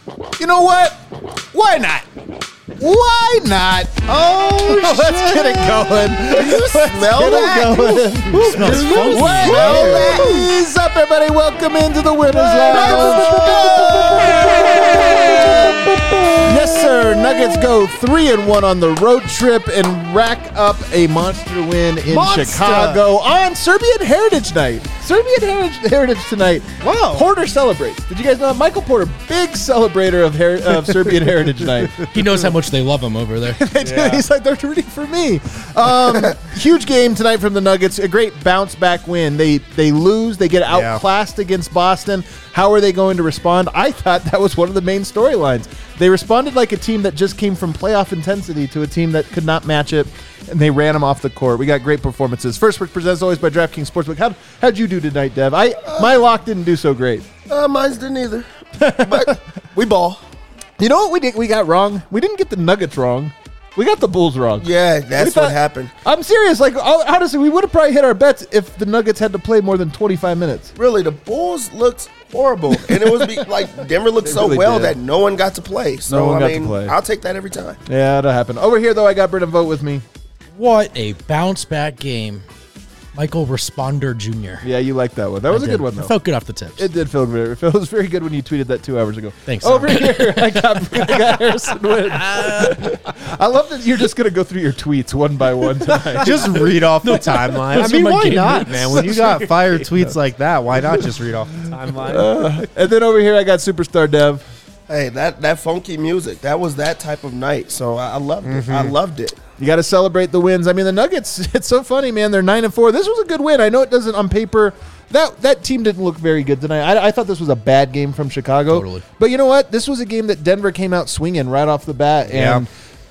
You know what? Why not? Why not? Oh, let's get it going. You smell that? Smells funky. What is up, everybody? Welcome into the Winners Lounge. Yes, sir. Nuggets go 3-1 on the road trip and rack up a monster win in Chicago on Serbian Heritage Night. Serbian Heritage tonight. Wow. Porter celebrates. Did you guys know that? Michael Porter, big celebrator of Serbian Heritage Night. He knows how much they love him over there. They do. He's like, they're rooting for me. Huge game tonight from the Nuggets. A great bounce back win. They lose. They get outclassed against Boston. How are they going to respond? I thought that was one of the main storylines. They responded like a team that just came from playoff intensity to a team that could not match it, and they ran them off the court. We got great performances. First Pick presented always by DraftKings Sportsbook. How'd you do tonight, Dev? My lock didn't do so great. Mine didn't either. But we ball. You know what we got wrong? We didn't get the Nuggets wrong. We got the Bulls wrong. Yeah, that's what happened. I'm serious. Like, honestly, we would have probably hit our bets if the Nuggets had to play more than 25 minutes. Really, the Bulls looked horrible. And it was like Denver looked so really well did. that no one got to play. So, No one got I mean, to play. I'll take that every time. Yeah, that'll happen. Over here, though, I got Brendan Vogt with me. What a bounce back game. Michael Responder Jr. Yeah, you liked that one. That was a good one, It though. felt good off the tips. It did feel good. It feels very good when you tweeted that 2 hours ago. Thanks. Over here, I got Harrison Wind. I love that you're just going to go through your tweets one by one tonight. Just read off the timeline. I Those mean, are my why game not, notes. man? When you got fire tweets like that, why not just read off the timeline? And then over here, I got Superstar Dev. Hey, that funky music, that was that type of night. So I loved it. I loved it. You got to celebrate the wins. I mean, the Nuggets, it's so funny, man. They're 9-4. This was a good win. I know it doesn't on paper. That team didn't look very good tonight. I thought this was a bad game from Chicago. Totally. But you know what? This was a game that Denver came out swinging right off the bat. And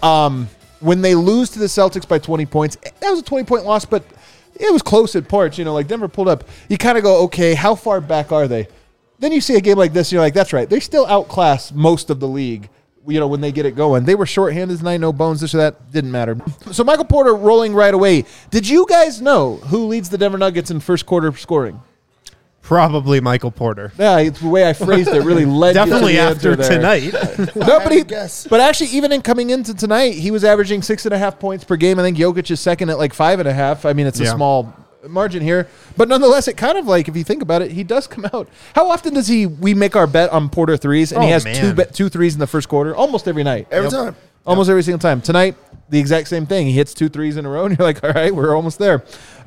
when they lose to the Celtics by 20 points, that was a 20-point loss, but it was close at parts. You know, like Denver pulled up. You kind of go, okay, how far back are they? Then you see a game like this, and you're like, that's right. They still outclass most of the league. You know, when they get it going. They were shorthanded tonight, no bones, this or that. Didn't matter. So Michael Porter rolling right away. Did you guys know who leads the Denver Nuggets in first quarter scoring? Probably Michael Porter. Yeah, it's the way I phrased it really led Definitely you to the after answer there. tonight. No, but, Guess. but actually, even in coming into tonight, he was averaging 6.5 points per game. I think Jokic is second at like 5.5. I mean, it's a small margin here. But nonetheless, it kind of like, if you think about it, he does come out. How often does we make our bet on Porter threes, and he has two threes in the first quarter? Almost every night. Every time. Almost every single time. Tonight, the exact same thing. He hits 2 threes in a row, and you're like, all right, we're almost there.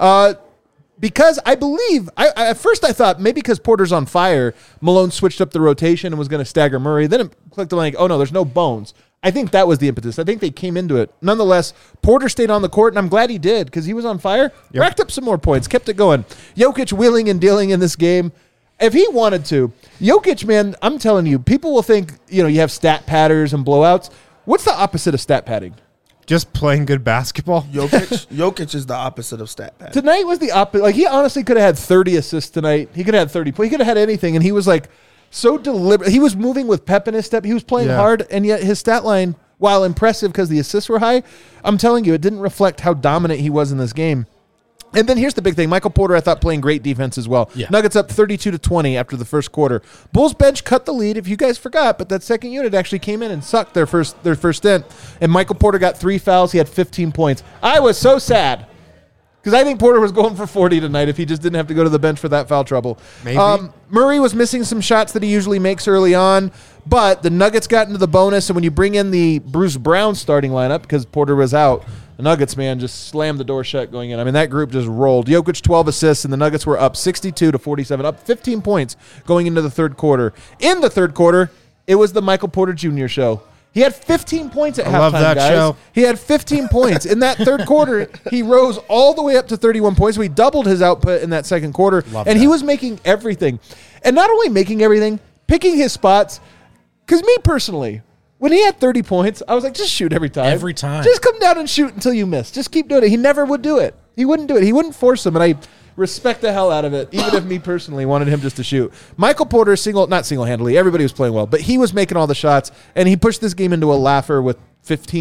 Because I believe, at first I thought maybe because Porter's on fire, Malone switched up the rotation and was going to stagger Murray. Then it clicked on like, oh no, there's no bones. I think that was the impetus. I think they came into it. Nonetheless, Porter stayed on the court, and I'm glad he did because he was on fire. Yep. Racked up some more points, kept it going. Jokic wheeling and dealing in this game. If he wanted to, Jokic, man, I'm telling you, people will think, you have stat patters and blowouts. What's the opposite of stat padding? Just playing good basketball. Jokic is the opposite of stat pad. Tonight was the opposite. Like, he honestly could have had 30 assists tonight. He could have had 30 points. He could have had anything, and he was like so deliberate. He was moving with pep in his step. He was playing hard, and yet his stat line, while impressive because the assists were high, I'm telling you, it didn't reflect how dominant he was in this game. And then here's the big thing. Michael Porter, I thought, playing great defense as well. Yeah. Nuggets up 32-20 after the first quarter. Bulls bench cut the lead, if you guys forgot, but that second unit actually came in and sucked their first stint. And Michael Porter got 3 fouls. He had 15 points. I was so sad because I think Porter was going for 40 tonight if he just didn't have to go to the bench for that foul trouble. Maybe. Murray was missing some shots that he usually makes early on, but the Nuggets got into the bonus, and when you bring in the Bruce Brown starting lineup because Porter was out, the Nuggets, man, just slammed the door shut going in. I mean, that group just rolled. Jokic, 12 assists, and the Nuggets were up 62-47, up 15 points going into the third quarter. In the third quarter, it was the Michael Porter Jr. show. He had 15 points at halftime, love that guys. show. He had 15 points. In that third quarter, he rose all the way up to 31 points. So he doubled his output in that second quarter. He was making everything. And not only making everything, picking his spots. Because me personally, when he had 30 points, I was like, just shoot every time. Every time. Just come down and shoot until you miss. Just keep doing it. He never would do it. He wouldn't do it. He wouldn't force him. And I respect the hell out of it, even if me personally wanted him just to shoot. Michael Porter, not single-handedly, everybody was playing well, but he was making all the shots, and he pushed this game into a laugher with 15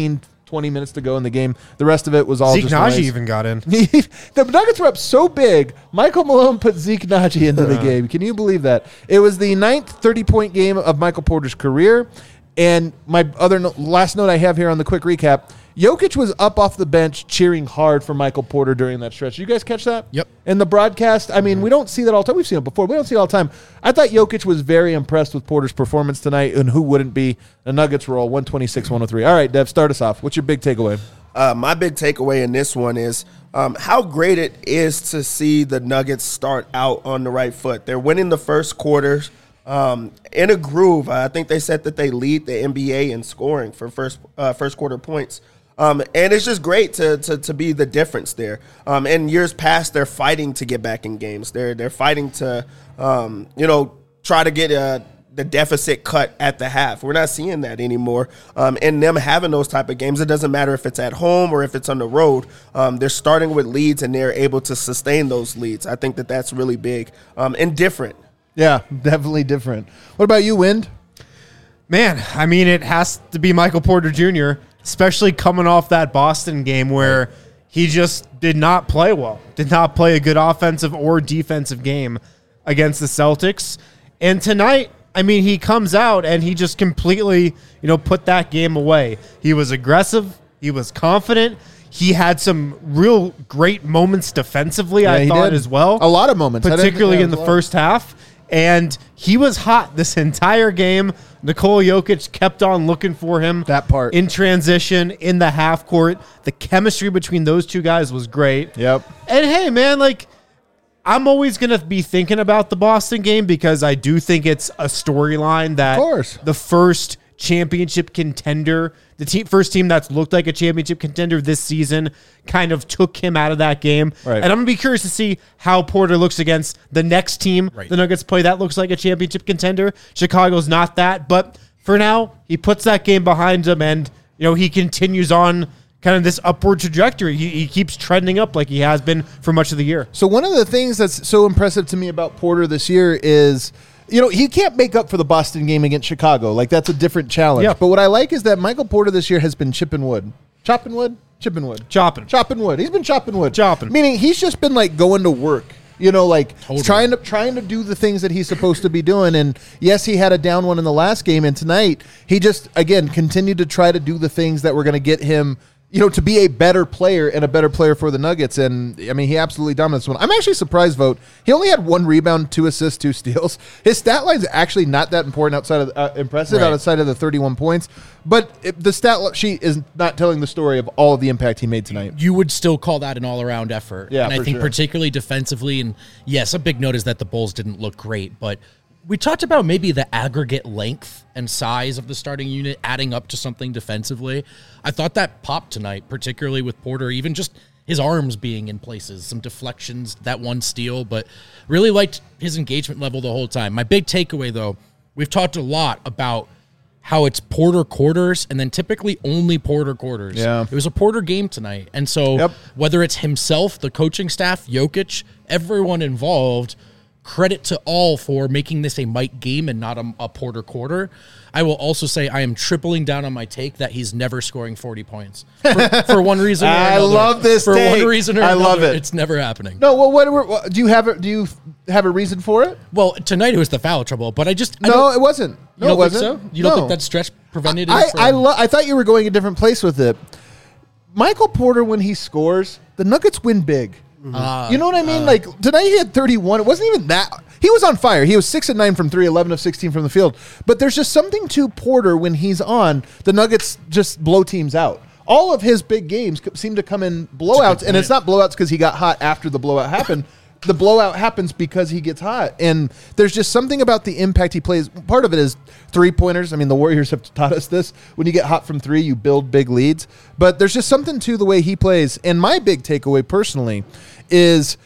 20 minutes to go in the game. The rest of it was all Zeke just Naji noise. even got in. The Nuggets were up so big, Michael Malone put Zeke Naji into the game. Can you believe that? It was the 9th 30-point game of Michael Porter's career. And my last note I have here on the quick recap, Jokic was up off the bench cheering hard for Michael Porter during that stretch. Did you guys catch that? Yep. In the broadcast, I mean, we don't see that all the time. We've seen it before. We don't see it all the time. I thought Jokic was very impressed with Porter's performance tonight, and who wouldn't be? The Nuggets roll 126-103. All right, Dev, start us off. What's your big takeaway? My big takeaway in this one is how great it is to see the Nuggets start out on the right foot. They're winning the first quarter in a groove. I think they said that they lead the NBA in scoring for first quarter points. And it's just great to be the difference there. In years past, they're fighting to get back in games. They're fighting to try to get the deficit cut at the half. We're not seeing that anymore. And them having those type of games, it doesn't matter if it's at home or if it's on the road. They're starting with leads and they're able to sustain those leads. I think that that's really big and different. Yeah, definitely different. What about you, Wind? Man, I mean, it has to be Michael Porter Jr., especially coming off that Boston game where he just did not play well, did not play a good offensive or defensive game against the Celtics. And tonight, I mean, he comes out and he just completely, put that game away. He was aggressive. He was confident. He had some real great moments defensively, I thought, as well. A lot of moments. Particularly in the first half. And he was hot this entire game. Nikola Jokic kept on looking for him. That part. In transition, in the half court. The chemistry between those two guys was great. Yep. And hey, man, I'm always going to be thinking about the Boston game because I do think it's a storyline that the first championship contender, first team that's looked like a championship contender this season, kind of took him out of that game. Right. And I'm going to be curious to see how Porter looks against the next team the Nuggets play that looks like a championship contender. Chicago's not that, but for now, he puts that game behind him and, he continues on kind of this upward trajectory. He keeps trending up like he has been for much of the year. So one of the things that's so impressive to me about Porter this year is, he can't make up for the Boston game against Chicago. That's a different challenge. Yep. But what I like is that Michael Porter this year has been chipping wood. Chopping wood? Chipping wood. Chopping wood. He's been chopping wood. Meaning he's just been going to work. Totally. trying to do the things that he's supposed to be doing. And yes, he had a down one in the last game. And tonight, he just, again, continued to try to do the things that were going to get him to be a better player and a better player for the Nuggets. And, I mean, he absolutely dominates one. I'm actually surprised, Vote. He only had 1 rebound, 2 assists, 2 steals. His stat line's actually not that important outside of impressive outside of the 31 points. But the stat sheet is not telling the story of all of the impact he made tonight. You would still call that an all-around effort. Yeah, and I think sure. particularly defensively, and yes, a big note is that the Bulls didn't look great, but we talked about maybe the aggregate length and size of the starting unit adding up to something defensively. I thought that popped tonight, particularly with Porter, even just his arms being in places, some deflections, that one steal, but really liked his engagement level the whole time. My big takeaway, though, we've talked a lot about how it's Porter quarters and then typically only Porter quarters. Yeah. It was a Porter game tonight. And so whether it's himself, the coaching staff, Jokic, everyone involved, credit to all for making this a Mike game and not a Porter quarter. I will also say I am tripling down on my take that he's never scoring 40 points for one reason or another. I love this For take. one reason or I another, love it. it's never happening. No, well, do you have a reason for it? Well, tonight it was the foul trouble, but I No, it wasn't. You No, don't it think wasn't. so? You don't No. think that stretch prevented it? I thought you were going a different place with it. Michael Porter, when he scores, the Nuggets win big. You know what I mean? Tonight he had 31. It wasn't even that. He was on fire. He was 6 of 9 from 3, 11 of 16 from the field. But there's just something to Porter when he's on. The Nuggets just blow teams out. All of his big games seem to come in blowouts, and it's not blowouts because he got hot after the blowout happened. The blowout happens because he gets hot. And there's just something about the impact he plays. Part of it is three-pointers. I mean, the Warriors have taught us this. When you get hot from 3, you build big leads. But there's just something to the way he plays. And my big takeaway personally is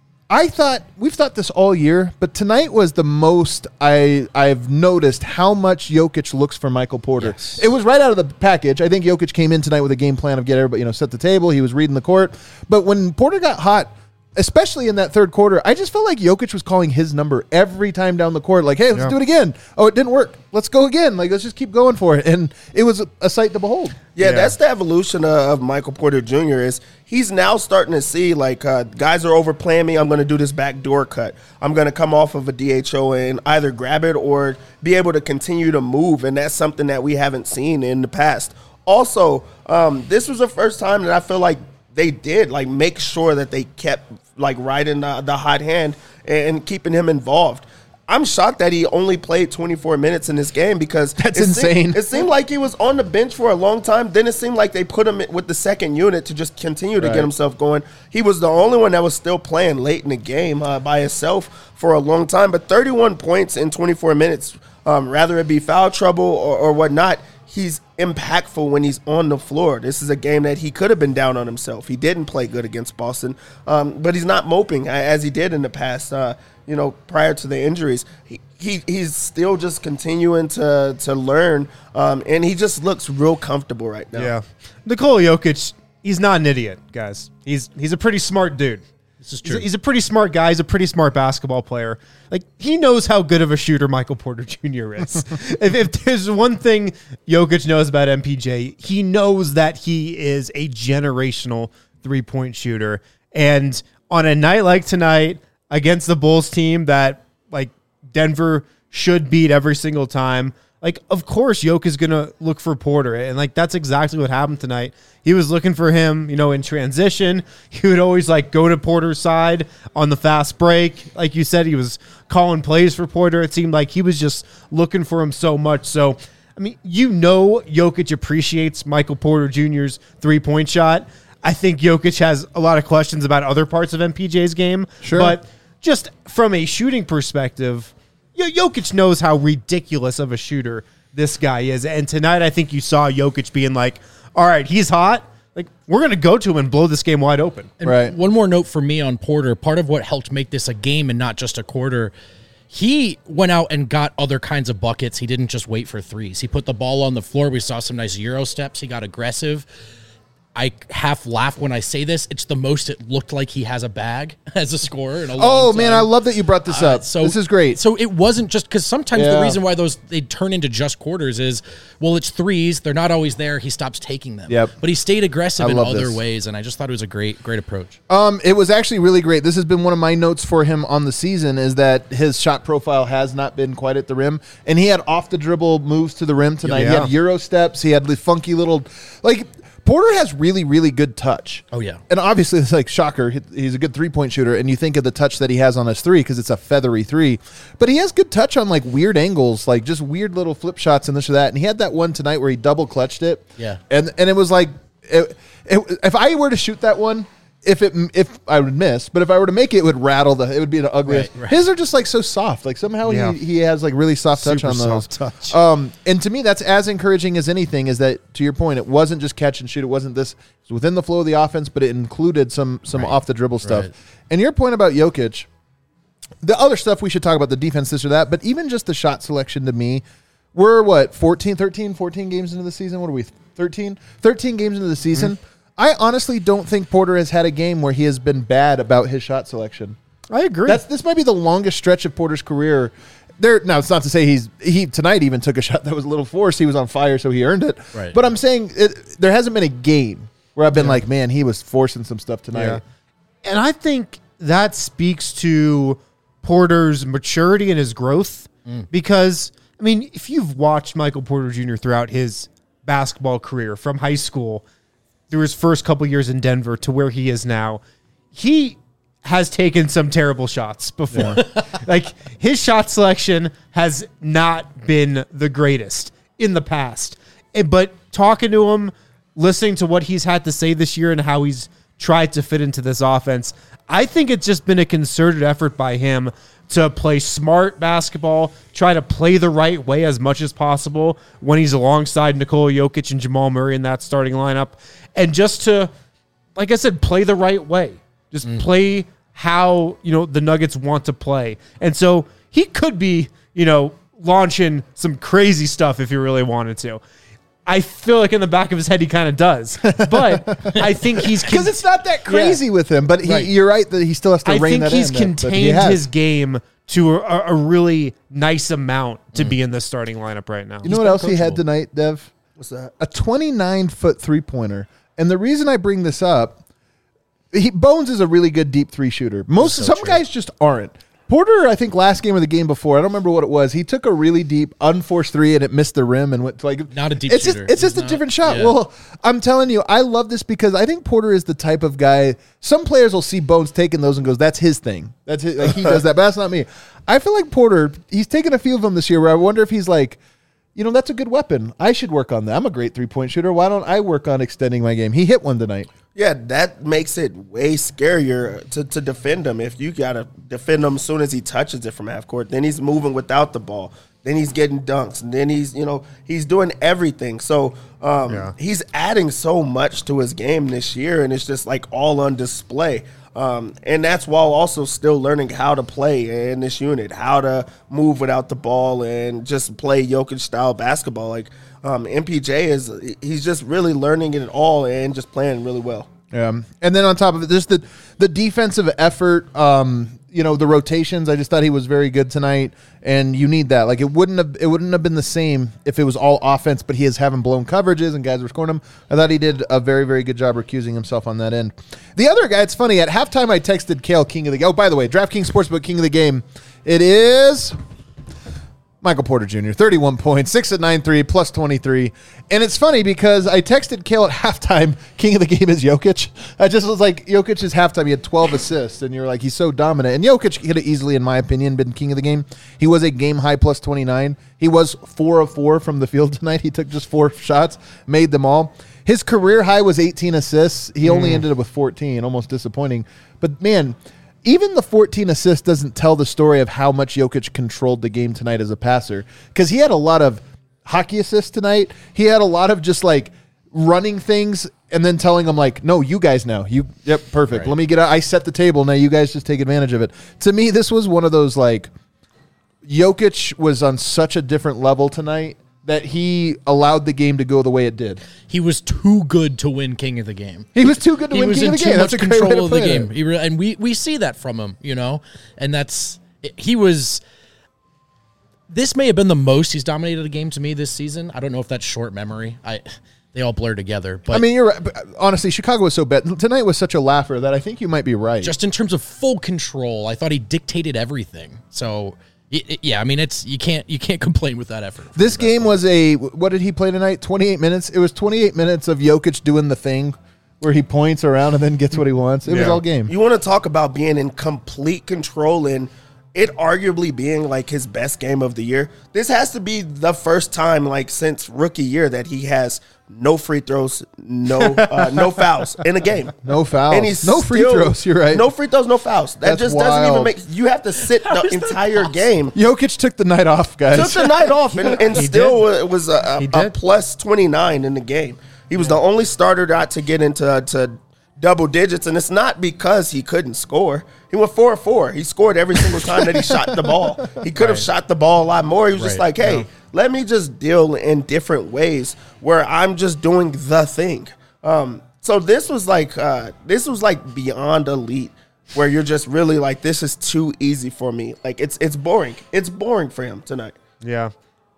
we've thought this all year, but tonight was the most I've noticed how much Jokic looks for Michael Porter. Yes. It was right out of the package. I think Jokic came in tonight with a game plan of get everybody, set the table. He was reading the court. But when Porter got hot, especially in that third quarter, I just felt like Jokic was calling his number every time down the court. Like, hey, let's do it again. Oh, it didn't work. Let's go again. Like, let's just keep going for it. And it was a sight to behold. Yeah, that's the evolution of Michael Porter Jr. is he's now starting to see, like, guys are overplaying me. I'm going to do this backdoor cut. I'm going to come off of a DHO and either grab it or be able to continue to move, and that's something that we haven't seen in the past. Also, this was the first time that I feel like they did, like, make sure that they kept, like, riding the hot hand and keeping him involved. I'm shocked that he only played 24 minutes in this game because that's insane. It seemed like he was on the bench for a long time. Then it seemed like they put him with the second unit to just continue to get himself going. He was the only one that was still playing late in the game by himself for a long time. But 31 points in 24 minutes, rather it be foul trouble or whatnot, he's impactful when he's on the floor. This is a game that he could have been down on himself. He didn't play good against Boston, but he's not moping as he did in the past. Prior to the injuries, he's still just continuing to learn, and he just looks real comfortable right now. Yeah, Nikola Jokic, he's not an idiot, guys. He's a pretty smart dude. This is true. He's a pretty smart guy. He's a pretty smart basketball player. Like, he knows how good of a shooter Michael Porter Jr. is. if there's one thing Jokic knows about MPJ, he knows that he is a generational three-point shooter. And on a night like tonight, against the Bulls team that, like, Denver should beat every single time, like, of course Jokic is going to look for Porter. And, like, that's exactly what happened tonight. He was looking for him, in transition. He would always, like, go to Porter's side on the fast break. Like you said, he was calling plays for Porter. It seemed like he was just looking for him so much. So, I mean, Jokic appreciates Michael Porter Jr.'s three-point shot. I think Jokic has a lot of questions about other parts of MPJ's game. Sure. But just from a shooting perspective, Jokic knows how ridiculous of a shooter this guy is. And tonight, I think you saw Jokic being like, all right, he's hot. Like, we're going to go to him and blow this game wide open. And right. One more note for me on Porter. Part of what helped make this a game and not just a quarter, he went out and got other kinds of buckets. He didn't just wait for threes. He put the ball on the floor. We saw some nice Euro steps. He got aggressive. I half laugh when I say this. It's the most it looked like he has a bag as a scorer in a long time. Man, I love that you brought this up. So this is great. So it wasn't just because sometimes the reason why they turn into just quarters is, well, it's threes. They're not always there. He stops taking them. Yep. But he stayed aggressive in other ways, and I just thought it was a great approach. It was actually really great. This has been one of my notes for him on the season is that his shot profile has not been quite at the rim, and he had off the dribble moves to the rim tonight. Yeah. He had Euro steps. He had the funky little Porter has really, really good touch. Oh, yeah. And obviously, it's like, shocker, he's a good three-point shooter, and you think of the touch that he has on his three because it's a feathery three. But he has good touch on, like, weird angles, like just weird little flip shots and this or that. And he had that one tonight where he double-clutched it. Yeah. And it was like, if I were to shoot that one, if I would miss, but if I were to make it, it would rattle it would be an ugly. Right. His are just like so soft. Like somehow he has like really soft touch Super on those. soft touch. And to me, that's as encouraging as anything. Is that, to your point, it wasn't just catch and shoot. It wasn't this. It was within the flow of the offense, but it included some off the dribble stuff. Right. And your point about Jokic, the other stuff we should talk about, the defense, this or that, but even just the shot selection to me, we're 14 games into the season. What are we? 13 games into the season. Mm-hmm. I honestly don't think Porter has had a game where he has been bad about his shot selection. I agree. This might be the longest stretch of Porter's career. Now, it's not to say he tonight even took a shot that was a little forced. He was on fire, so he earned it. Right. But I'm saying there hasn't been a game where I've been like, man, he was forcing some stuff tonight. Yeah. And I think that speaks to Porter's maturity and his growth because, I mean, if you've watched Michael Porter Jr. throughout his basketball career from high school through his first couple years in Denver to where he is now, he has taken some terrible shots before. Like, his shot selection has not been the greatest in the past. But talking to him, listening to what he's had to say this year and how he's tried to fit into this offense, I think it's just been a concerted effort by him to play smart basketball, try to play the right way as much as possible when he's alongside Nikola Jokic and Jamal Murray in that starting lineup. And just to, like I said, play the right way. Just play how, the Nuggets want to play. And so he could be, launching some crazy stuff if he really wanted to. I feel like in the back of his head he kind of does, but I think he's because it's not that crazy with him. But you're right that he still has to rein that in. I think he's contained his game to a really nice amount to be in the starting lineup right now. You know what else he had tonight, Dev? What's that? A 29-foot three-pointer. And the reason I bring this up, Bones is a really good deep three shooter. Some guys just aren't. Porter, I think last game or the game before, I don't remember what it was. He took a really deep, unforced three and it missed the rim and went like not a deep shooter. It's just a different shot. Yeah. Well, I'm telling you, I love this because I think Porter is the type of guy. Some players will see Bones taking those and goes, "That's his thing. That's his, like he does that." But that's not me. I feel like Porter. He's taken a few of them this year. Where I wonder if he's like, that's a good weapon. I should work on that. I'm a great 3-point shooter. Why don't I work on extending my game? He hit one tonight. Yeah, that makes it way scarier to defend him. If you got to defend him as soon as he touches it from half court, then he's moving without the ball. Then he's getting dunks. And then he's doing everything. So he's adding so much to his game this year, and it's just like all on display. And that's while also still learning how to play in this unit, how to move without the ball and just play Jokic-style basketball. Like MPJ he's just really learning it all and just playing really well. And then on top of it, just the defensive effort, the rotations. I just thought he was very good tonight, and you need that. Like it wouldn't have been the same if it was all offense, but he is having blown coverages and guys were scoring him. I thought he did a very, very good job recusing himself on that end. The other guy, it's funny, at halftime I texted Kale King of the game. Oh, by the way, DraftKings Sportsbook King of the game. It is Michael Porter Jr., 31 points, 6 at 9-3, plus 23. And it's funny because I texted Kale at halftime, king of the game is Jokic. I just was like, Jokic is halftime. He had 12 assists, and you're like, he's so dominant. And Jokic could have easily, in my opinion, been king of the game. He was a game-high plus 29. He was 4 of 4 from the field tonight. He took just 4 shots, made them all. His career high was 18 assists. He only ended up with 14, almost disappointing. But, man, even the 14 assists doesn't tell the story of how much Jokic controlled the game tonight as a passer, because he had a lot of hockey assists tonight. He had a lot of just like running things and then telling them like, no, you guys now. Yep, perfect. Right. Let me get out. I set the table. Now you guys just take advantage of it. To me, this was one of those like Jokic was on such a different level tonight that he allowed the game to go the way it did. He was too good to win king of the game. He was too good to win king of the game. That's a control of the game. And we see that from him, and this may have been the most he's dominated a game to me this season. I don't know if that's short memory. They all blur together. But I mean, you're right. But honestly, Chicago was so bad. Tonight was such a laugher that I think you might be right. Just in terms of full control, I thought he dictated everything. So yeah, I mean, you can't complain with that effort. This game was what did he play tonight? 28 minutes. It was 28 minutes of Jokic doing the thing where he points around and then gets what he wants. It was all game. You want to talk about being in complete control and it arguably being like his best game of the year. This has to be the first time like since rookie year that he has no free throws, no fouls in a game. No fouls. And he's no free throws, you're right. No free throws, no fouls. That just doesn't even make – you have to sit the entire game. Jokic took the night off, guys. Took the night off and still was a plus 29 in the game. He was the only starter to get into double digits, and it's not because he couldn't score. He went 4 of 4. He scored every single time that he shot the ball. He could have shot the ball a lot more. He was just like, hey, let me just deal in different ways where I'm just doing the thing. So this was like beyond elite, where you're just really like, this is too easy for me. Like it's boring. It's boring for him tonight. Yeah.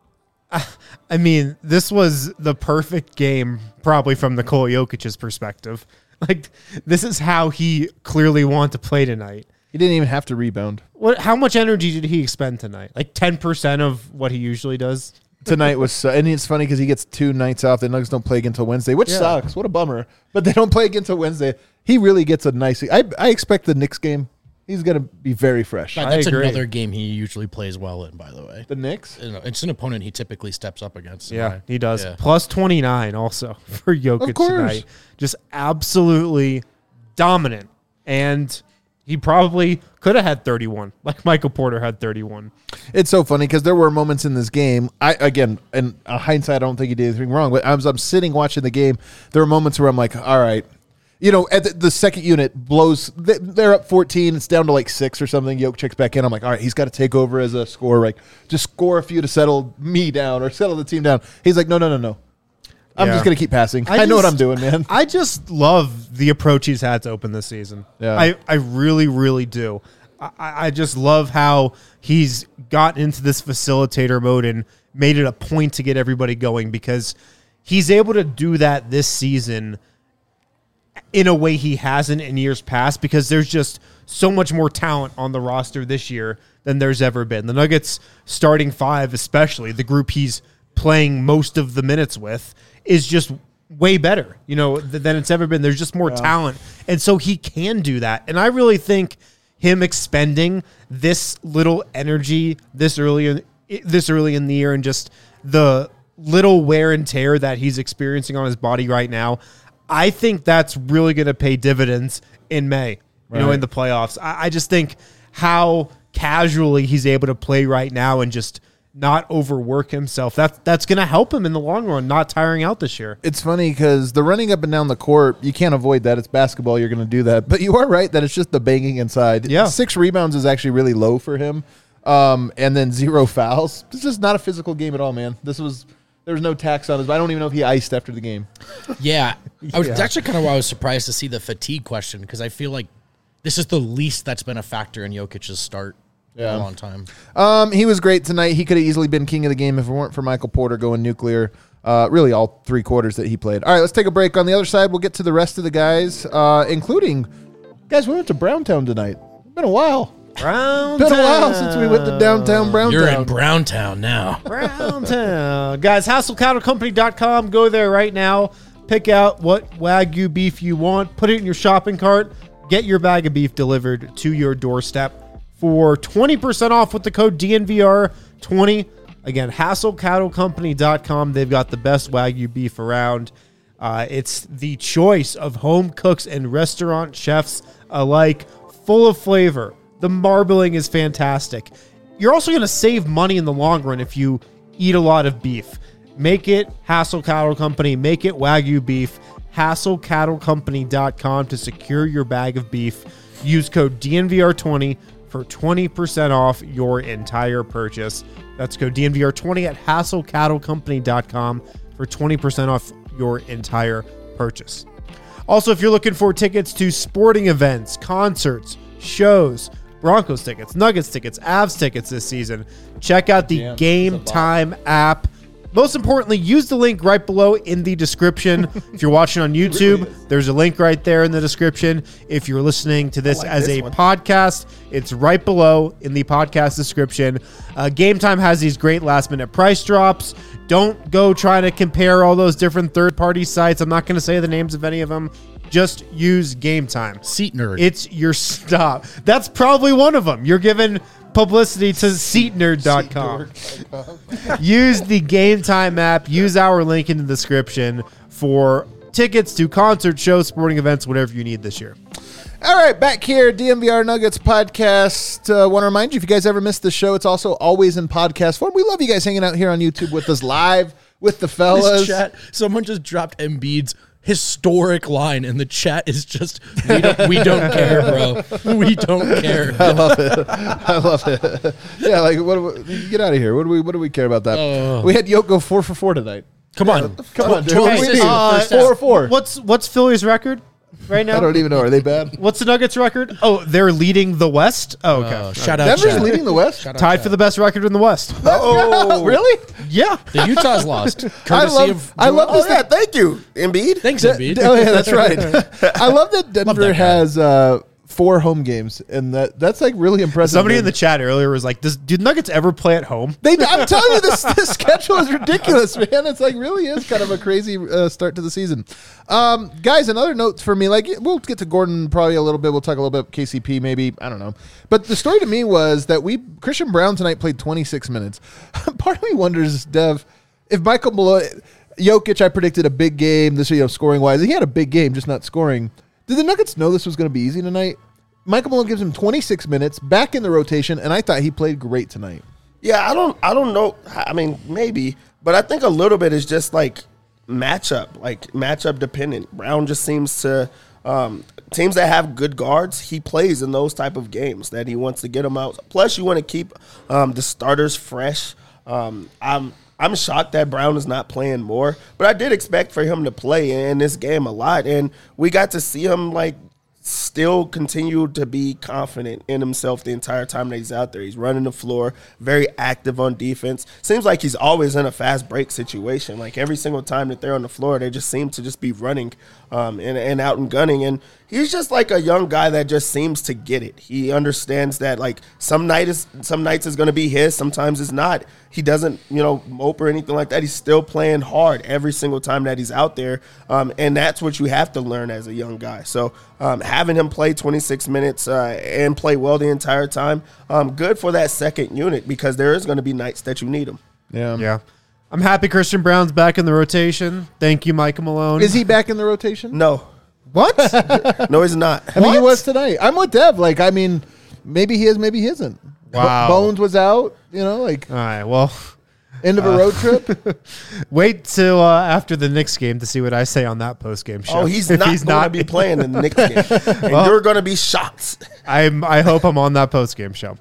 I mean, this was the perfect game probably from Nikola Jokic's perspective. Like, this is how he clearly wanted to play tonight. He didn't even have to rebound. How much energy did he expend tonight? Like 10% of what he usually does? Tonight was, and it's funny because he gets 2 nights off. The Nuggets don't play again until Wednesday, which sucks. What a bummer. But they don't play again until Wednesday. He really gets a nice, I expect the Knicks game, he's going to be very fresh. That's another game he usually plays well in, by the way. The Knicks? It's an opponent he typically steps up against. Yeah, he does. Yeah. Plus 29 also for Jokic tonight. Just absolutely dominant. And he probably could have had 31, like Michael Porter had 31. It's so funny because there were moments in this game. In hindsight, I don't think he did anything wrong. But I'm sitting watching the game. There were moments where I'm like, all right. At the second unit blows. They're up 14. It's down to like 6 or something. Jokic checks back in. I'm like, all right, he's got to take over as a scorer. Like, just score a few to settle me down or settle the team down. He's like, no. I'm Yeah. just going to keep passing. I know what I'm doing, man. I just love the approach he's had to open this season. Yeah. I really, really do. I just love how he's gotten into this facilitator mode and made it a point to get everybody going, because he's able to do that this season in a way he hasn't in years past, because there's just so much more talent on the roster this year than there's ever been. The Nuggets starting five, especially the group he's playing most of the minutes with, is just way better, than it's ever been. There's just more talent. And so he can do that. And I really think him expending this little energy this early in the year, and just the little wear and tear that he's experiencing on his body right now, I think that's really going to pay dividends in May, in the playoffs. I just think how casually he's able to play right now and just not overwork himself, that's going to help him in the long run, not tiring out this year. It's funny because the running up and down the court, you can't avoid that. It's basketball. You're going to do that. But you are right that it's just the banging inside. Yeah. 6 rebounds is actually really low for him. And then 0 fouls. It's just not a physical game at all, man. There was no tax on his. I don't even know if he iced after the game. Yeah. I was actually kind of why I was surprised to see the fatigue question, because I feel like this is the least that's been a factor in Jokic's start in a long time. He was great tonight. He could have easily been king of the game if it weren't for Michael Porter going nuclear. Really all 3 quarters that he played. All right, let's take a break. On the other side, we'll get to the rest of the guys, including, guys, we went to Browntown tonight. It's been a while. Been a while since we went to downtown Browntown. You're in Browntown now. Browntown. Guys, HassleCattleCompany.com. Go there right now. Pick out what Wagyu beef you want. Put it in your shopping cart. Get your bag of beef delivered to your doorstep for 20% off with the code DNVR20. Again, HassleCattleCompany.com. They've got the best Wagyu beef around. It's the choice of home cooks and restaurant chefs alike, full of flavor. The marbling is fantastic. You're also going to save money in the long run if you eat a lot of beef. Make it Hassle Cattle Company. Make it Wagyu beef. HassleCattleCompany.com to secure your bag of beef. Use code DNVR20 for 20% off your entire purchase. That's code DNVR20 at HassleCattleCompany.com for 20% off your entire purchase. Also, if you're looking for tickets to sporting events, concerts, shows, Broncos tickets, Nuggets tickets, Avs tickets this season, check out the Game Time app. Most importantly, use the link right below in the description. If you're watching on YouTube, there's a link right there in the description. If you're listening to this as a podcast, it's right below in the podcast description. Game Time has these great last-minute price drops. Don't go trying to compare all those different third-party sites. I'm not going to say the names of any of them. Just use Game Time. Seat Nerd. It's your stop. That's probably one of them. You're giving publicity to SeatNerd.com. Use the Game Time app. Use our link in the description for tickets to concerts, shows, sporting events, whatever you need this year. All right, back here, DNVR Nuggets podcast. Want to remind you, if you guys ever missed the show, it's also always in podcast form. We love you guys hanging out here on YouTube with us live with the fellas. This chat, someone just dropped Embiid's historic line, and the chat is just, we don't care, bro. We don't care. I love it. Yeah, like get out of here. What do we care about that? We had Yoke go 4 for 4 tonight. Come on, dude. 12 What do we assists need? in the first half. 4 for 4. What's Philly's record right now? I don't even know. Are they bad? What's the Nuggets record? Oh, they're leading the West? Oh, okay. Shout out, Denver's chat. leading the West. Shout out, Tied chat. for the best record in the West. Oh, really? Yeah. The Utah's lost. Courtesy of I love this. Oh, yeah, thank you, Embiid. Thanks, Embiid. Oh yeah, that's right. I love that Denver that guy. has 4 home games, and that's like really impressive. Somebody in the chat earlier was like, do Nuggets ever play at home? I'm telling you, this schedule is ridiculous, man. It's like really is kind of a crazy start to the season. Guys, another note for me, like we'll get to Gordon probably a little bit. We'll talk a little bit KCP maybe. I don't know. But the story to me was that Christian Brown tonight played 26 minutes. Part of me wonders, Dev, if Michael Malone, Jokic, I predicted a big game this year, scoring wise. He had a big game, just not scoring. Did the Nuggets know this was going to be easy tonight? Michael Malone gives him 26 minutes back in the rotation, and I thought he played great tonight. Yeah, I don't know. I mean, maybe, but I think a little bit is just like matchup dependent. Brown just seems to teams that have good guards, he plays in those type of games that he wants to get them out. Plus, you want to keep the starters fresh. I'm I'm shocked that Brown is not playing more, but I did expect for him to play in this game a lot, and we got to see him like still continue to be confident in himself the entire time that he's out there. He's running the floor, very active on defense. Seems like he's always in a fast break situation. Like every single time that they're on the floor, they just seem to just be running and out and gunning. And he's just like a young guy that just seems to get it. He understands that like some nights is going to be his, sometimes it's not. He doesn't, mope or anything like that. He's still playing hard every single time that he's out there, and that's what you have to learn as a young guy. So having him play 26 minutes and play well the entire time, good for that second unit because there is going to be nights that you need him. Yeah. I'm happy Christian Brown's back in the rotation. Thank you, Michael Malone. Is he back in the rotation? No. What? No, he's not. I mean, he was tonight. I'm with Dev. Like, I mean, maybe he is, maybe he isn't. Wow. Bones was out, All right, well. End of a road trip. Wait till after the Knicks game to see what I say on that post-game show. Oh, he's not going to be playing in the Knicks game. And you're going to be shocked. I hope I'm on that post-game show.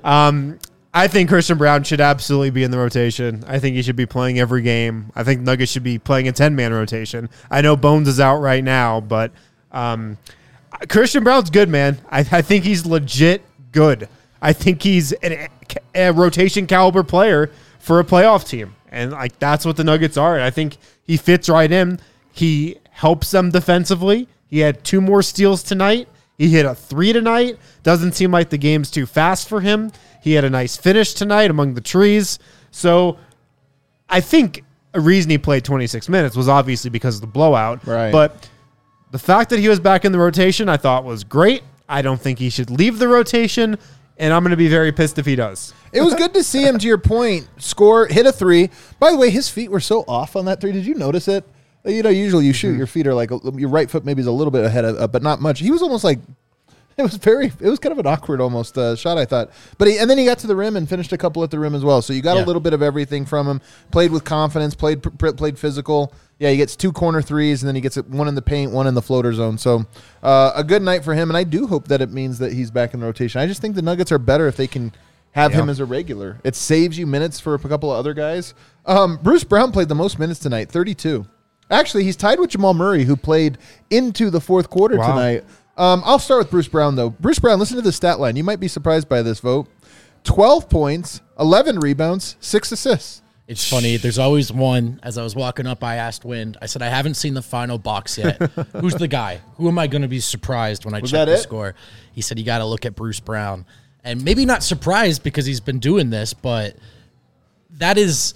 I think Christian Brown should absolutely be in the rotation. I think he should be playing every game. I think Nuggets should be playing a 10-man rotation. I know Bones is out right now, but Christian Brown's good, man. I think he's legit good. I think he's a rotation caliber player for a playoff team. And like that's what the Nuggets are. And I think he fits right in. He helps them defensively. He had 2 more steals tonight. He hit a 3 tonight. Doesn't seem like the game's too fast for him. He had a nice finish tonight among the trees. So I think a reason he played 26 minutes was obviously because of the blowout. Right. But the fact that he was back in the rotation I thought was great. I don't think he should leave the rotation, and I'm going to be very pissed if he does. It was good to see him, to your point, hit a 3. By the way, his feet were so off on that 3. Did you notice it? Usually you shoot, your feet are like, your right foot maybe is a little bit ahead of, but not much. He was almost like, it was kind of an awkward almost shot, I thought. But then he got to the rim and finished a couple at the rim as well. So you got a little bit of everything from him. Played with confidence, played physical. Yeah, he gets 2 corner threes, and then he gets 1 in the paint, 1 in the floater zone. So a good night for him, and I do hope that it means that he's back in the rotation. I just think the Nuggets are better if they can have him as a regular. It saves you minutes for a couple of other guys. Bruce Brown played the most minutes tonight, 32. Actually, he's tied with Jamal Murray, who played into the fourth quarter tonight. I'll start with Bruce Brown, though. Bruce Brown, listen to the stat line. You might be surprised by this vote. 12 points, 11 rebounds, 6 assists. It's funny. There's always one. As I was walking up, I asked Wind. I said, I haven't seen the final box yet. Who's the guy? Who am I going to be surprised when I check the score? He said, you got to look at Bruce Brown. And maybe not surprised because he's been doing this, but that is...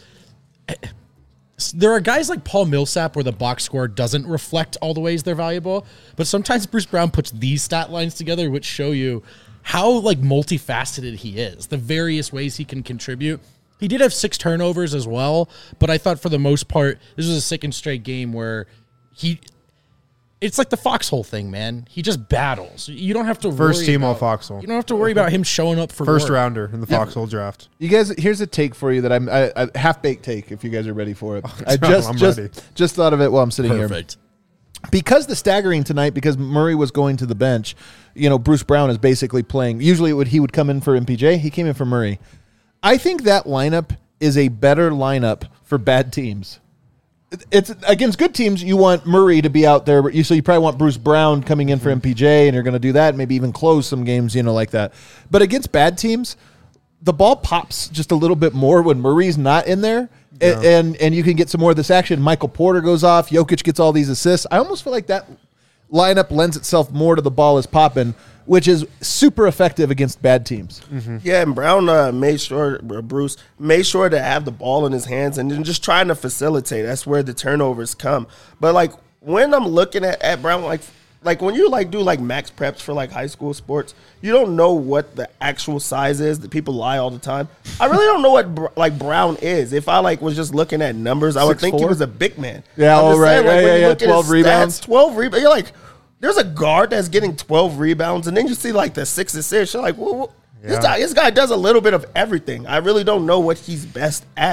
There are guys like Paul Millsap where the box score doesn't reflect all the ways they're valuable, but sometimes Bruce Brown puts these stat lines together which show you how like multifaceted he is, the various ways he can contribute. He did have 6 turnovers as well, but I thought for the most part, this was a second straight game where it's like the Foxhole thing, man. He just battles. You don't have to First team all Foxhole. You don't have to worry about him showing up for First work. rounder in the Foxhole draft. You guys, here's a take for you that I half-baked take if you guys are ready for it. I I'm ready. just thought of it while I'm sitting Perfect. here. Because the staggering tonight, because Murray was going to the bench, Bruce Brown is basically playing. Usually he would come in for MPJ. He came in for Murray. I think that lineup is a better lineup for bad teams. It's against good teams. You want Murray to be out there, but so you probably want Bruce Brown coming in for MPJ, and you're going to do that. Maybe even close some games, like that. But against bad teams, the ball pops just a little bit more when Murray's not in there, and you can get some more of this action. Michael Porter goes off. Jokic gets all these assists. I almost feel like that lineup lends itself more to the ball is popping, which is super effective against bad teams. Mm-hmm. Yeah, and Brown Bruce made sure to have the ball in his hands and then just trying to facilitate. That's where the turnovers come. But, like, when I'm looking at Brown, like when you, do, max preps for, high school sports, you don't know what the actual size is. That people lie all the time. I really don't know what, Brown is. If I, was just looking at numbers, I would think he was a big man. Yeah, all right. Yeah, 12 rebounds. 12 rebounds. You're like... There's a guard that's getting 12 rebounds, and then you see the 6 assists. You're like, well, this guy does a little bit of everything. I really don't know what he's best at.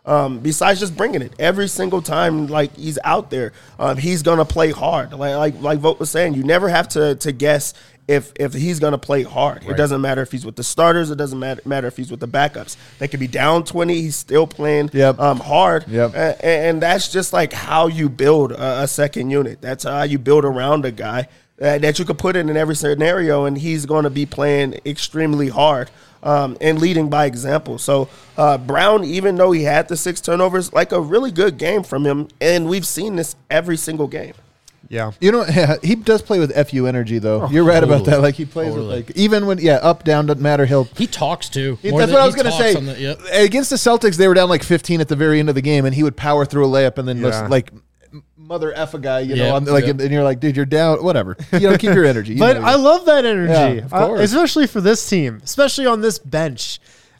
besides just bringing it every single time, like he's out there. He's gonna play hard. Like Vogt was saying, you never have to guess if he's gonna play hard. It doesn't matter if he's with the starters. It doesn't matter if he's with the backups. They could be down 20. He's still playing hard. And that's just like how you build a second unit. That's how you build around a guy that you could put in every scenario, and he's going to be playing extremely hard. And leading by example. So Brown, even though he had the 6 turnovers, like a really good game from him, and we've seen this every single game. Yeah. You know, he does play with FU energy, though. You're right about that. Like, he plays with, like, even when, up, down, doesn't matter. He talks, too. That's what I was going to say. Against the Celtics, they were down like 15 at the very end of the game, and he would power through a layup and then just, like, mother F a guy, you know, and you're like, dude, you're down, whatever. You know, keep your energy. But I love that energy, of course. Especially for this team, especially on this bench.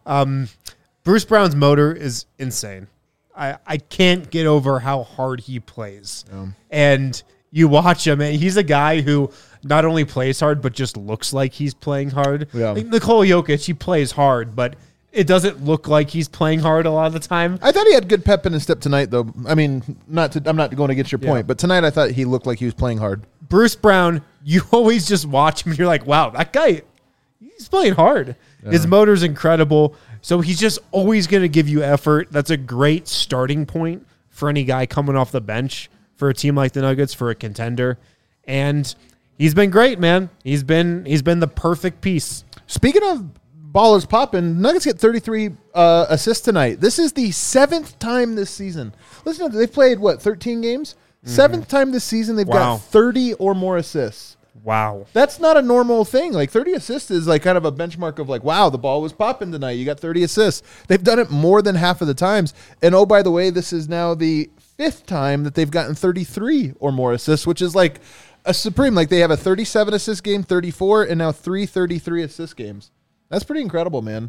Bruce Brown's motor is insane. I can't get over how hard he plays. And you watch him, and he's a guy who not only plays hard, but just looks like he's playing hard. Like Nikola Jokic, he plays hard, but it doesn't look like he's playing hard a lot of the time. I thought he had good pep in his step tonight, though. I mean, I'm not going to get your point, but tonight I thought he looked like he was playing hard. Bruce Brown, you always just watch him and you're like, wow, that guy, he's playing hard. His motor's incredible. So he's just always going to give you effort. That's a great starting point for any guy coming off the bench for a team like the Nuggets, for a contender. And he's been great, man. He's been the perfect piece. Speaking of ballers popping, Nuggets get 33 assists tonight. This is the 7th time this season. Listen, they've played, 13 games? 7th time this season they've got 30 or more assists. Wow. That's not a normal thing. Like, 30 assists is like kind of a benchmark of like, wow, the ball was popping tonight. You got 30 assists. They've done it more than half of the times. And oh, by the way, this is now the 5th time that they've gotten 33 or more assists, which is like a supreme. Like, they have a 37 assist game, 34, and now 3 33 assist games. That's pretty incredible, man.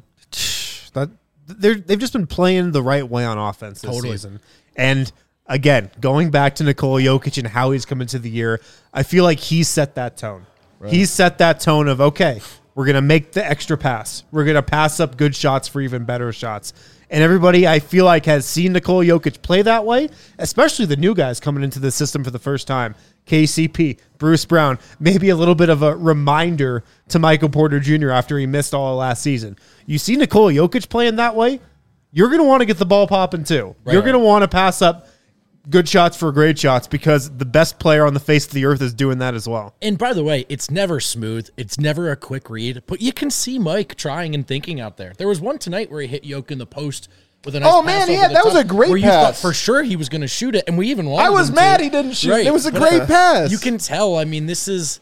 They've just been playing the right way on offense this season. And again, going back to Nikola Jokic and how he's come into the year, I feel like he set that tone. Right. He set that tone of, okay, we're going to make the extra pass. We're going to pass up good shots for even better shots. And everybody, I feel like, has seen Nikola Jokic play that way, especially the new guys coming into the system for the first time. KCP, Bruce Brown, maybe a little bit of a reminder to Michael Porter Jr. after he missed all of last season. You see Nikola Jokic playing that way, you're going to want to get the ball popping too. Right. You're going to want to pass up good shots for great shots because the best player on the face of the earth is doing that as well. And by the way, it's never smooth. It's never a quick read, but you can see Mike trying and thinking out there. There was one tonight where he hit Yoke in the post with a nice pass over the that top, was a great where pass. You thought for sure he was going to shoot it, and we even wanted I was him mad to. He didn't shoot. Right. It was a great pass. You can tell. I mean,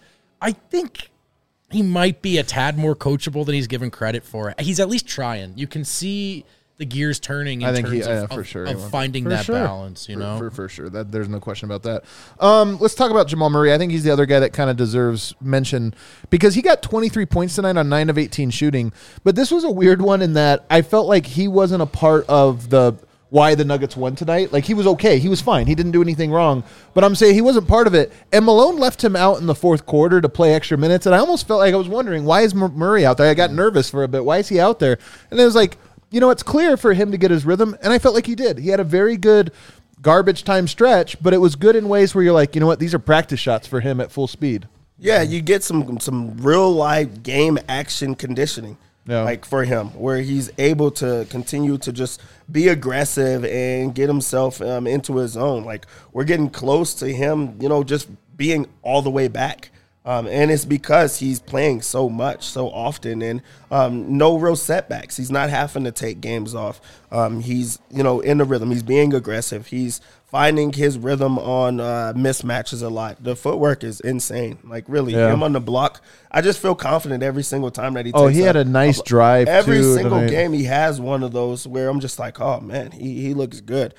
I think he might be a tad more coachable than he's given credit for. He's at least trying. You can see the gears turning in terms of finding that balance, you know? For sure. There's no question about that. Let's talk about Jamal Murray. I think he's the other guy that kind of deserves mention because he got 23 points tonight on 9 of 18 shooting. But this was a weird one in that I felt like he wasn't a part of why the Nuggets won tonight. Like, he was okay. He was fine. He didn't do anything wrong. But I'm saying he wasn't part of it. And Malone left him out in the fourth quarter to play extra minutes. And I almost felt like I was wondering, why is Murray out there? I got nervous for a bit. Why is he out there? And it was like, you know, it's clear for him to get his rhythm, and I felt like he did. He had a very good garbage time stretch, but it was good in ways where you're like, you know what, these are practice shots for him at full speed. Yeah, you get some real life game action conditioning, like for him, where he's able to continue to just be aggressive and get himself into his zone. Like, we're getting close to him, you know, just being all the way back. And it's because he's playing so much, so often, and no real setbacks. He's not having to take games off. He's, you know, in the rhythm. He's being aggressive. He's finding his rhythm on mismatches a lot. The footwork is insane. Like, really, him on the block. I just feel confident every single time that he takes he had a nice drive, every single game he has one of those where I'm just like, oh, man, he looks good.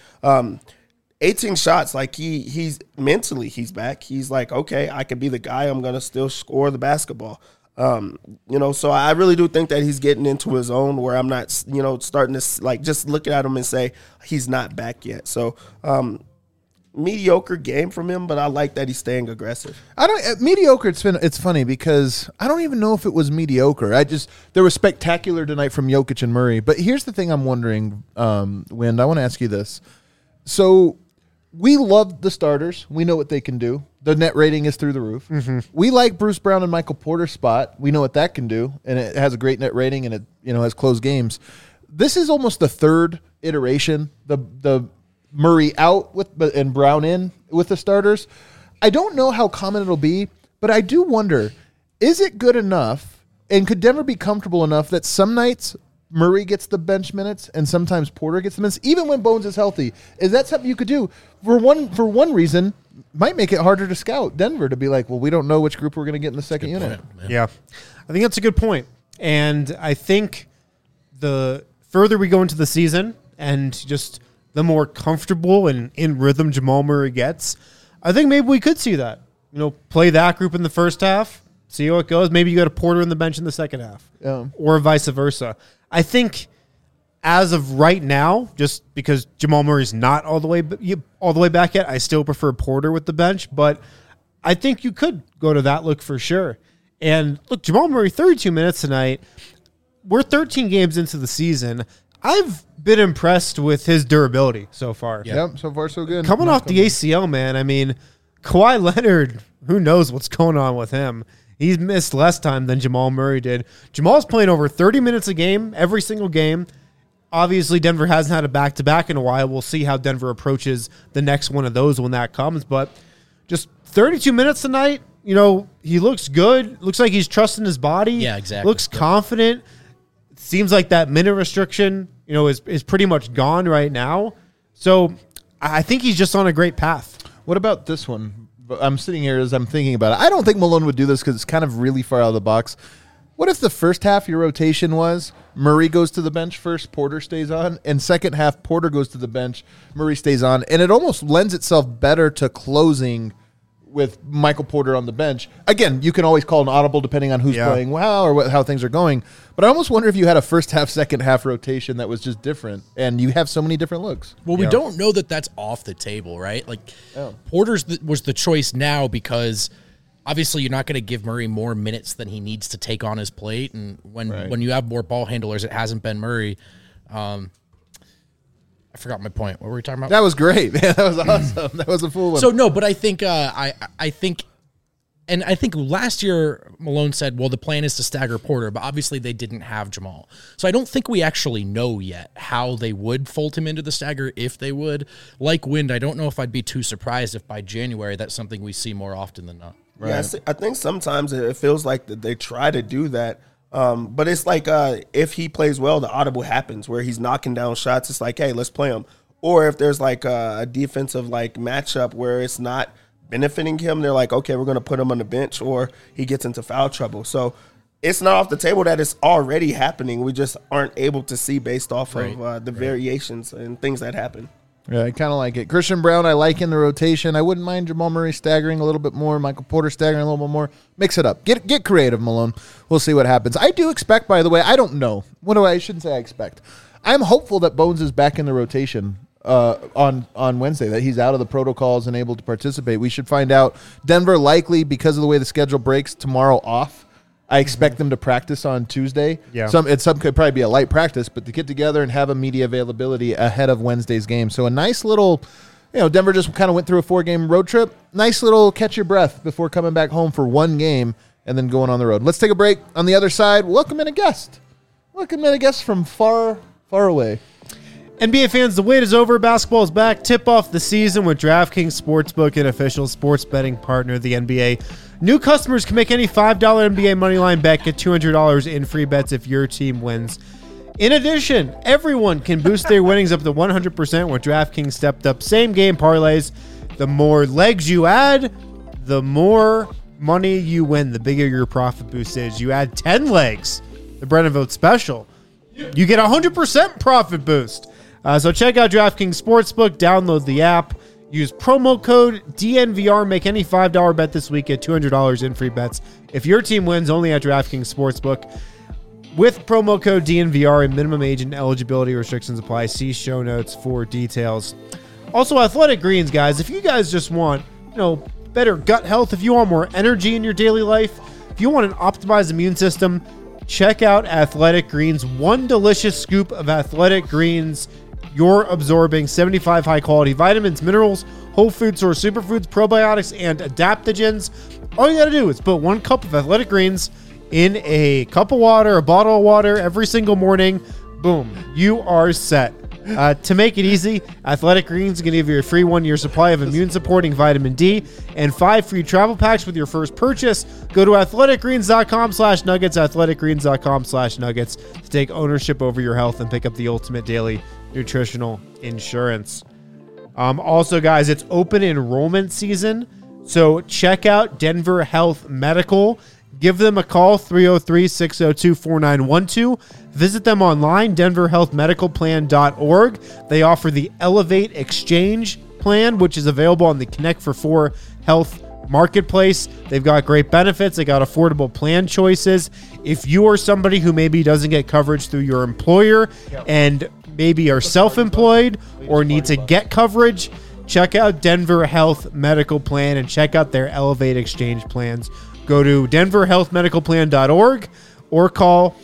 18 shots, like he's mentally, he's back. He's like, okay, I could be the guy. I'm going to still score the basketball. You know, so I really do think that he's getting into his own where I'm not, you know, starting to like just look at him and say he's not back yet. So mediocre game from him, but I like that he's staying aggressive. Mediocre. It's funny because I don't even know if it was mediocre. There was spectacular tonight from Jokic and Murray. But here's the thing I'm wondering, Wind. I want to ask you this. So we love the starters. We know what they can do. The net rating is through the roof. Mm-hmm. We like Bruce Brown and Michael Porter's spot. We know what that can do, and it has a great net rating, and it has close games. This is almost the third iteration. The Murray out and Brown in with the starters. I don't know how common it'll be, but I do wonder, is it good enough, and could Denver be comfortable enough that some nights Murray gets the bench minutes and sometimes Porter gets the minutes, even when Bones is healthy? Is that something you could do? For one reason, might make it harder to scout Denver to be like, well, we don't know which group we're going to get in the second unit. Yeah, I think that's a good point. And I think the further we go into the season and just the more comfortable and in rhythm Jamal Murray gets, I think maybe we could see that. Play that group in the first half, see how it goes. Maybe you got a Porter in the bench in the second half, or vice versa. I think as of right now, just because Jamal Murray's not all the way back yet, I still prefer Porter with the bench. But I think you could go to that look for sure. And look, Jamal Murray, 32 minutes tonight. We're 13 games into the season. I've been impressed with his durability so far. Yep, so far so good. Coming off the ACL, man. I mean, Kawhi Leonard, who knows what's going on with him? He's missed less time than Jamal Murray did. Jamal's playing over 30 minutes a game, every single game. Obviously, Denver hasn't had a back-to-back in a while. We'll see how Denver approaches the next one of those when that comes. But just 32 minutes tonight, he looks good. Looks like he's trusting his body. Yeah, exactly. Looks confident. Seems like that minute restriction, is pretty much gone right now. So I think he's just on a great path. What about this one? I'm sitting here as I'm thinking about it. I don't think Malone would do this because it's kind of really far out of the box. What if the first half your rotation was Murray goes to the bench first, Porter stays on, and second half Porter goes to the bench, Murray stays on, and it almost lends itself better to closing with Michael Porter on the bench. Again, you can always call an audible depending on who's playing well or how things are going. But I almost wonder if you had a first half, second half rotation that was just different, and you have so many different looks. Well, we don't know that that's off the table, right? Like Porter's was the choice now because obviously you're not going to give Murray more minutes than he needs to take on his plate, and when you have more ball handlers, it hasn't been Murray. I forgot my point. What were we talking about? That was great, man. That was awesome. That was a full one. So no, but I think I think last year Malone said, well, the plan is to stagger Porter, but obviously they didn't have Jamal. So I don't think we actually know yet how they would fold him into the stagger, if they would. Like Wind, I don't know if I'd be too surprised if by January that's something we see more often than not. Right. Yeah, I think sometimes it feels like that they try to do that. But it's like if he plays well, the audible happens where he's knocking down shots. It's like, hey, let's play him. Or if there's like a defensive matchup where it's not benefiting him, they're like, okay, we're going to put him on the bench, or he gets into foul trouble. So it's not off the table that it's already happening. We just aren't able to see based off of the variations and things that happen. Yeah, I kind of like it. Christian Brown, I like in the rotation. I wouldn't mind Jamal Murray staggering a little bit more, Michael Porter staggering a little bit more. Mix it up. Get creative, Malone. We'll see what happens. I do expect, by the way, I don't know. I shouldn't say I expect. I'm hopeful that Bones is back in the rotation on Wednesday, that he's out of the protocols and able to participate. We should find out. Denver likely, because of the way the schedule breaks, tomorrow off. I expect them to practice on Tuesday. Yeah. Some could probably be a light practice, but to get together and have a media availability ahead of Wednesday's game. So a nice little, Denver just kind of went through a 4-game road trip. Nice little catch your breath before coming back home for one game and then going on the road. Let's take a break. On the other side, welcome in a guest. Welcome in a guest from far, far away. NBA fans, the wait is over. Basketball is back. Tip off the season with DraftKings Sportsbook, an official sports betting partner of the NBA. New customers can make any $5 NBA moneyline bet, get $200 in free bets if your team wins. In addition, everyone can boost their winnings up to 100% with DraftKings stepped up same-game parlays. The more legs you add, the more money you win, the bigger your profit boost is. You add 10 legs, the Brennan Vote Special, you get 100% profit boost. So check out DraftKings Sportsbook, download the app, use promo code DNVR, make any $5 bet this week, get $200 in free bets if your team wins, only at DraftKings Sportsbook. With promo code DNVR and minimum age and eligibility restrictions apply. See show notes for details. Also, Athletic Greens, guys, if you guys just want, better gut health, if you want more energy in your daily life, if you want an optimized immune system, check out Athletic Greens. One delicious scoop of Athletic Greens, you're absorbing 75 high-quality vitamins, minerals, whole food source superfoods, probiotics, and adaptogens. All you got to do is put 1 cup of Athletic Greens in a cup of water, a bottle of water every single morning. Boom, you are set. To make it easy, Athletic Greens is going to give you a free 1-year supply of immune-supporting vitamin D and 5 free travel packs with your first purchase. Go to athleticgreens.com/nuggets, athleticgreens.com/nuggets to take ownership over your health and pick up the ultimate daily nutritional insurance. Also, guys, it's open enrollment season, so check out Denver Health Medical. Give them a call, 303-602-4912. Visit them online, denverhealthmedicalplan.org. They offer the Elevate Exchange plan, which is available on the Connect for 4 Health Marketplace. They've got great benefits. They got affordable plan choices. If you are somebody who maybe doesn't get coverage through your employer and maybe are self-employed or need to get coverage, check out Denver Health Medical Plan and check out their Elevate Exchange plans. Go to denverhealthmedicalplan.org or call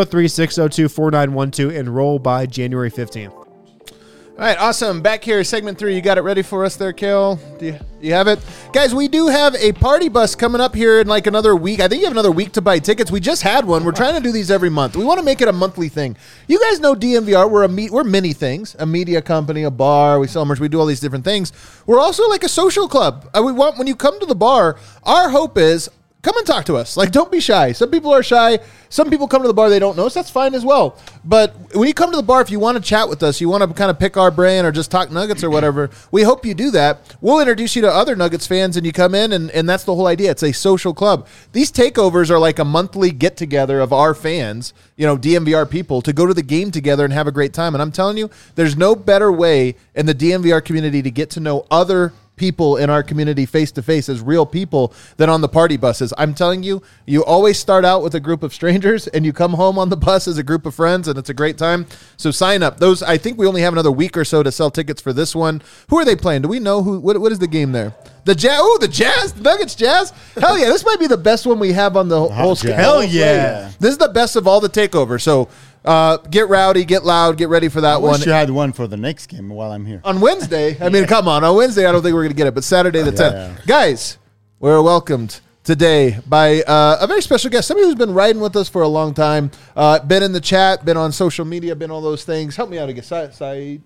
303-602-4912. Enroll by January 15th. All right, awesome. Back here, segment 3. You got it ready for us there, Kale? Do you have it? Guys, we do have a party bus coming up here in like another week. I think you have another week to buy tickets. We just had one. We're trying to do these every month. We want to make it a monthly thing. You guys know DNVR. We're many things. A media company, a bar. We sell merch. We do all these different things. We're also like a social club. We want, when you come to the bar, our hope is, come and talk to us. Like, don't be shy. Some people are shy. Some people come to the bar, they don't know us. That's fine as well. But when you come to the bar, if you want to chat with us, you want to kind of pick our brain or just talk Nuggets or whatever, we hope you do that. We'll introduce you to other Nuggets fans, and you come in, and that's the whole idea. It's a social club. These takeovers are like a monthly get-together of our fans, DNVR people, to go to the game together and have a great time. And I'm telling you, there's no better way in the DNVR community to get to know other people in our community face-to-face as real people than on the party buses. I'm telling you, you always start out with a group of strangers and you come home on the bus as a group of friends, and it's a great time. So sign up. Those, I think we only have another week or so to sell tickets for this one. Who are they playing? Do we know who? What is the game there? The Jazz. Oh, the Jazz. The Nuggets Jazz. Hell yeah. This might be the best one we have on the whole schedule. Hell yeah. This is the best of all the takeovers. So get rowdy, get loud, get ready for that I one. wish you had one for the next game while I'm here. On Wednesday, I mean, come on. On Wednesday, I don't think we're going to get it, but Saturday the 10th. Yeah. Guys, we're welcomed today by a very special guest, somebody who's been riding with us for a long time, been in the chat, been on social media, been all those things. Help me out again. Saeed.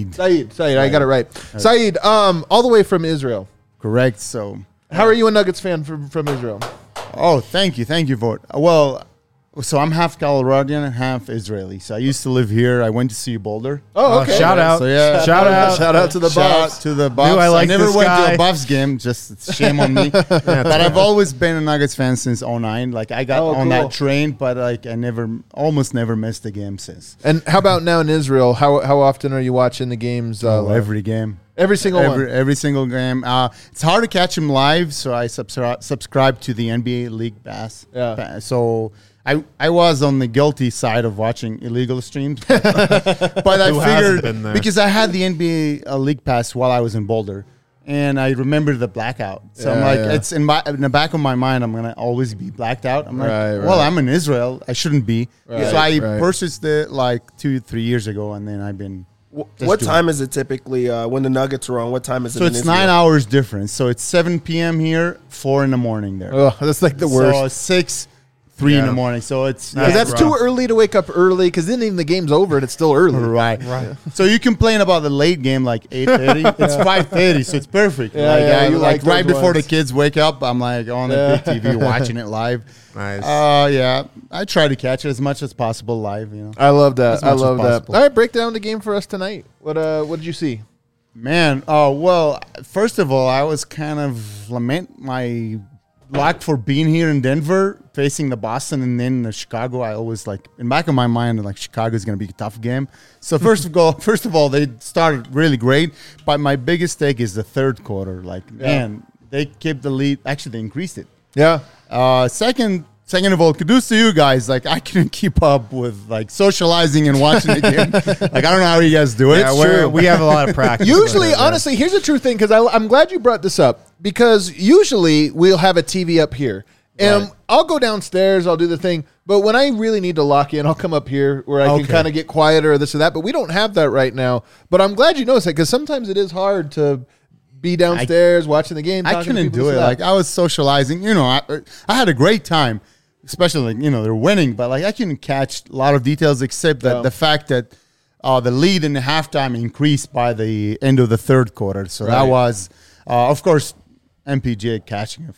I got it right. Saeed, all the way from Israel. Correct. So, How are you a Nuggets fan from Israel? oh, thank you for it. Well, so I'm half Coloradonian and half Israeli. So I used to live here. I went to see Boulder. Oh, okay. Shout out. So yeah, Shout out. Shout out to the Shout out Buffs. to the Buffs. I like never this went guy. to a Buffs game. Just it's shame on me. But I've always been a Nuggets fan since 2009. Like I got on cool. that train, but like I almost never missed a game since. And how about now in Israel? How often are you watching the games? Every game. Every single one. Every single game. It's hard to catch them live, so I subscribe to the NBA League Pass. Yeah. So I was on the guilty side of watching illegal streams, but I Who hasn't figured been there? because I had the NBA League Pass while I was in Boulder, and I remember the blackout. So I'm Yeah, like, yeah. it's in the back of my mind. I'm gonna always be blacked out. I'm like, Right, well, right. I'm in Israel. I shouldn't be. Right, so I right. purchased it like 2-3 years ago, and then I've been. Just What doing time is it typically when the Nuggets are on? What time is it? So in it's Israel? 9 hours difference. So it's 7 p.m. here, 4 in the morning there. Oh, that's like the worst. So 6, 3 in Yeah. the morning. So it's Because that's rough. too early to wake up early, because then even the game's over and it's still early. right. So you complain about the late game like 8:30. It's 5:30, so it's perfect. Yeah, like, yeah, you like like right those before ones. the kids wake up, I'm like on the big TV watching it live. Nice. Yeah, I try to catch it as much as possible live. I love that. As I much as love that. possible. All right, break down the game for us tonight. What did you see? Man, well, first of all, I was kind of lament my luck for being here in Denver, facing the Boston and then the Chicago. I always like in the back of my mind, like Chicago is going to be a tough game. So first of all, they started really great, but my biggest take is the third quarter. Like, man, they kept the lead. Actually, they increased it. Yeah. Second Second of all, kudos to you guys. Like, I couldn't keep up with like socializing and watching the game. Like, I don't know how you guys do it. Yeah, we have a lot of practice. Usually, honestly, here's a true thing, because I'm glad you brought this up, because usually we'll have a TV up here. And I'll go downstairs, I'll do the thing. But when I really need to lock in, I'll come up here where I can kind of get quieter or this or that. But we don't have that right now. But I'm glad you noticed that, because sometimes it is hard to be downstairs watching the game. I couldn't do it. Like, I was socializing. You know, I had a great time, especially, like, you know, they're winning. But, like, I couldn't catch a lot of details except that the fact that the lead in the halftime increased by the end of the third quarter. So that was, of course, MPJ catching a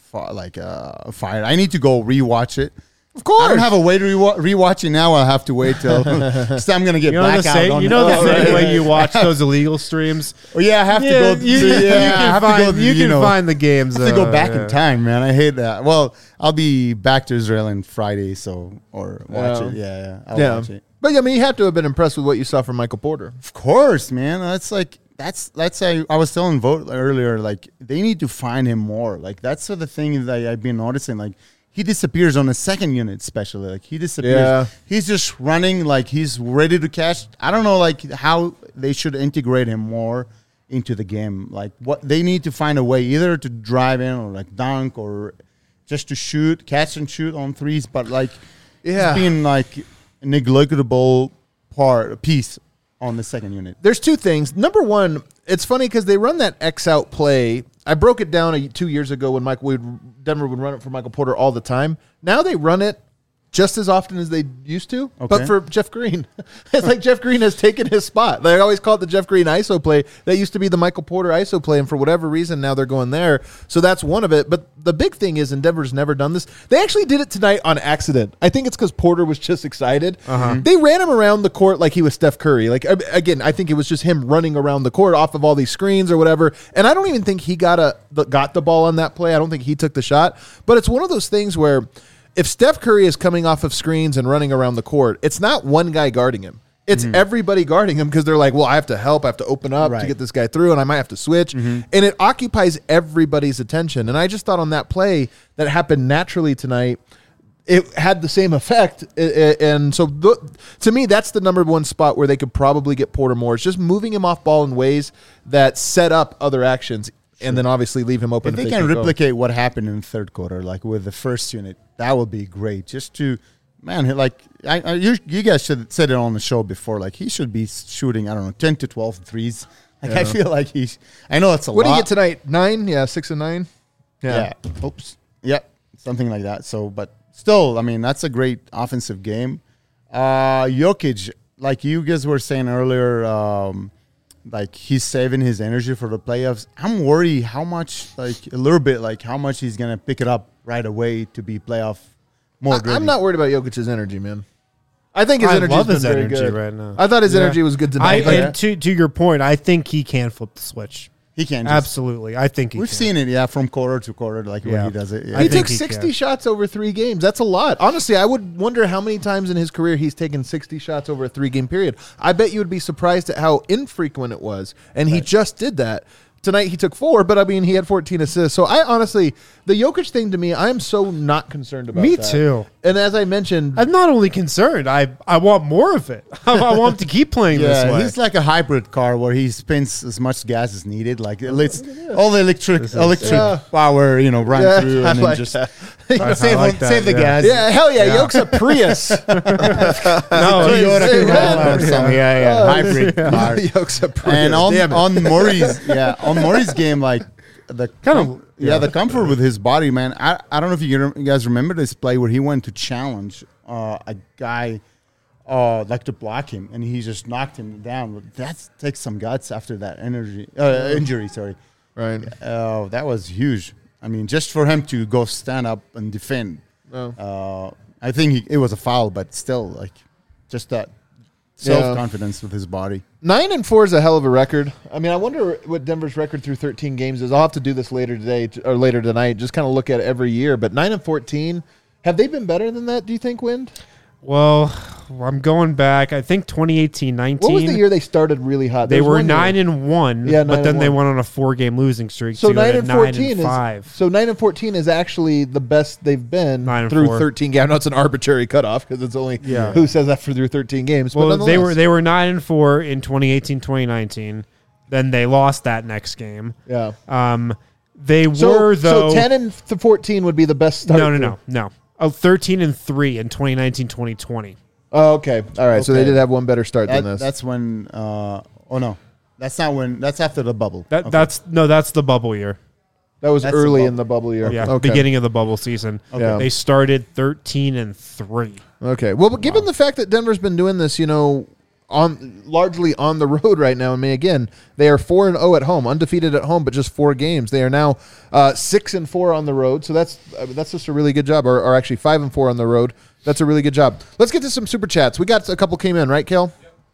fire. I need to go rewatch it. Of course. I don't have a way to rewatch it now. I'll have to wait till so I'm going to get back out on the same way you watch those illegal streams? Oh, yeah, I have to go. You can find the games. I have to go back in time, man. I hate that. Well, I'll be back to Israel on Friday, or watch it. Yeah, I'll watch it. But, I mean, you have to have been impressed with what you saw from Michael Porter. Of course, man. That's I was telling Vogt earlier, like, they need to find him more. Like, that's the thing that I've been noticing. Like, he disappears on the second unit, especially. Like, he disappears. Yeah. He's just running like he's ready to catch. I don't know, like, how they should integrate him more into the game. Like, what they need to find a way either to drive in or like dunk or just to shoot, catch and shoot on threes. But, like, it's being like a negligible piece on the second unit. There's two things. Number one, it's funny because they run that X out play. I broke it down 2 years ago when Denver would run it for Michael Porter all the time. Now they run it just as often as they used to, but for Jeff Green. It's like Jeff Green has taken his spot. They always call it the Jeff Green ISO play. That used to be the Michael Porter ISO play, and for whatever reason, now they're going there. So that's one of it. But the big thing is, and Denver's never done this, they actually did it tonight on accident. I think it's because Porter was just excited. They ran him around the court like he was Steph Curry. Like, again, I think it was just him running around the court off of all these screens or whatever. And I don't even think he got the ball on that play. I don't think he took the shot. But it's one of those things where if Steph Curry is coming off of screens and running around the court, it's not one guy guarding him. It's everybody guarding him, because they're like, well, I have to help. I have to open up to get this guy through, and I might have to switch. And it occupies everybody's attention. And I just thought on that play that happened naturally tonight, it had the same effect. And so to me, that's the number one spot where they could probably get Porter more. It's just moving him off ball in ways that set up other actions. And then obviously leave him open. If they can replicate what happened in the third quarter, like with the first unit, that would be great. Just to, man, like you guys should said it on the show before. Like, he should be shooting, I don't know, 10 to 12 threes. Like, I feel like I know it's a lot. What do you get tonight? 9? Yeah, 6 and 9. Yeah. Oops. Yeah, something like that. So, but still, I mean, that's a great offensive game. Jokic, like you guys were saying earlier, like, he's saving his energy for the playoffs. I'm worried how much, like, a little bit, like, how much he's going to pick it up right away to be playoff mode. I'm not worried about Jokic's energy, man. I think his energy is very good right now. I thought his energy was good tonight. And to your point, I think he can flip the switch. He can. Absolutely. I think we've seen it, from quarter to quarter, like when he does it. Yeah. He took 60 shots over 3 games. That's a lot. Honestly, I would wonder how many times in his career he's taken 60 shots over a 3-game period. I bet you would be surprised at how infrequent it was. And he just did that. Tonight he took 4, but I mean, he had 14 assists. So I honestly, the Jokic thing to me, I am so not concerned about Me that. too. And as I mentioned, I'm not only concerned, I want more of it. I want him to keep playing this way. He's like a hybrid car where he spends as much gas as needed. Like, it's all the electric power, run through and then just save the gas. Yeah, hell yeah. Yoke's a Prius. Toyota Corolla or something. Hybrid car. Yoke's a Prius. And on Murray's game, like, the comfort with his body, man. I don't know if you guys remember this play where he went to challenge a guy like to block him, and he just knocked him down. That takes some guts after that injury. Sorry, right? That was huge. I mean, just for him to go stand up and defend. I think it was a foul, but still, like, just that self-confidence with his body. 9-4 is a hell of a record. I mean, I wonder what Denver's record through 13 games is. I'll have to do this later today or later tonight. Just kind of look at it every year. But 9-14, have they been better than that? Do you think, Wind? Well, I'm going back. I think 2018-19. What was the year they started really hot? They There was were one year. 9-1, Yeah, but then 9-1. they went on a 4-game losing streak. So to go 9 to and 14 9-5. is so 9 and 14 is actually the best they've been 9 and through 4. 13 games. I know it's an arbitrary cutoff because it's only Yeah. who says that for through 13 games. Well, but they nonetheless. were 9-4 in 2018-2019. Then they lost that next game. Yeah. They were though. So 10 and 14 would be the best start. No. 13-3 in 2019-2020. Oh, okay. All right. So they Okay. did have one better start than this. That's when. Oh no, that's not when. That's after the bubble. That Okay. that's the bubble year. That was That's the early bubble. in the bubble year. Yeah, Okay. beginning of the bubble season. Yeah. They started 13-3. Okay. Well, but given the fact that Denver's been doing this, largely on the road right now. I mean, again, they are 4-0 at home, undefeated at home, but just 4 games. They are now 6-4 on the road. So that's just a really good job. Or actually 5-4 on the road. That's a really good job. Let's get to some super chats. We got a couple came in, right, Kel?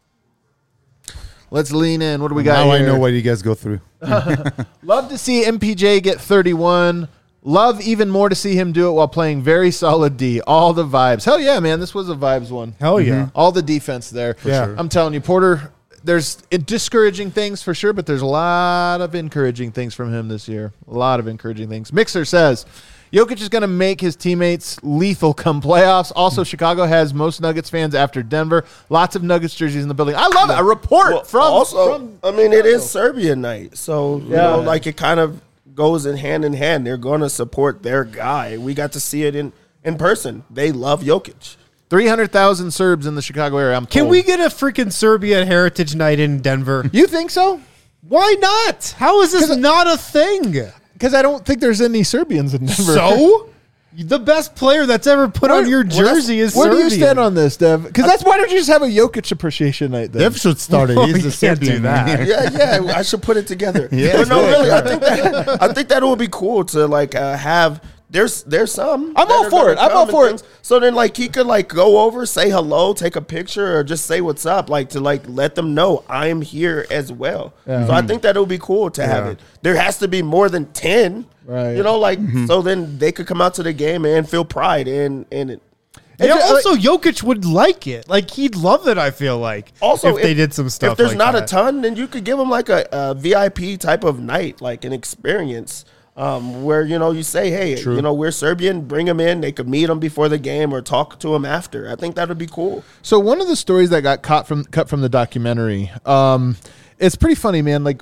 Yep. Let's lean in. What do we got Now here? I know what you guys go through. Love to see MPJ get 31. Love even more to see him do it while playing very solid D. All the vibes. Hell yeah, man. This was a vibes one. Hell yeah. All the defense there. Yeah. sure. I'm telling you, Porter, there's discouraging things for sure, but there's a lot of encouraging things from him this year. A lot of encouraging things. Mixer says, Jokic is going to make his teammates lethal come playoffs. Also, Chicago has most Nuggets fans after Denver. Lots of Nuggets jerseys in the building. I love it. A report from it is Serbia night, so you Yeah. know, like it kind of goes in hand. They're going to support their guy. We got to see it in person. They love Jokic. 300,000 Serbs in the Chicago area. I'm Can told. we get a freaking Serbia Heritage Night in Denver? You think so? Why not? How is this not a thing? Because I don't think there's any Serbians in Denver. So? The best player that's ever put on your jersey is Where do you Serbian. stand on this, Dev? Because why don't you just have a Jokic appreciation night then? Dev should start it. Oh, He's you the can't do Serbian that. man. Yeah, I should put it together. Yeah. But no, really, I think that would be cool to like have. There's some. I'm all that are for gonna it. I'm come all and for it. things. So then, like, he could like go over, say hello, take a picture, or just say what's up, like to like let them know I'm here as well. So I think that it would be cool to have it. There has to be more than 10, Right. You know, like so then they could come out to the game and feel pride in it. Yeah, also, Jokic would like it. Like, he'd love it, I feel like. Also, if they did some stuff If there's like not that. a ton, then you could give them like a VIP type of night, like an experience, where you say, hey, we're Serbian, bring them in. They could meet them before the game or talk to them after. I think that would be cool. So one of the stories that got cut from the documentary, it's pretty funny, man. Like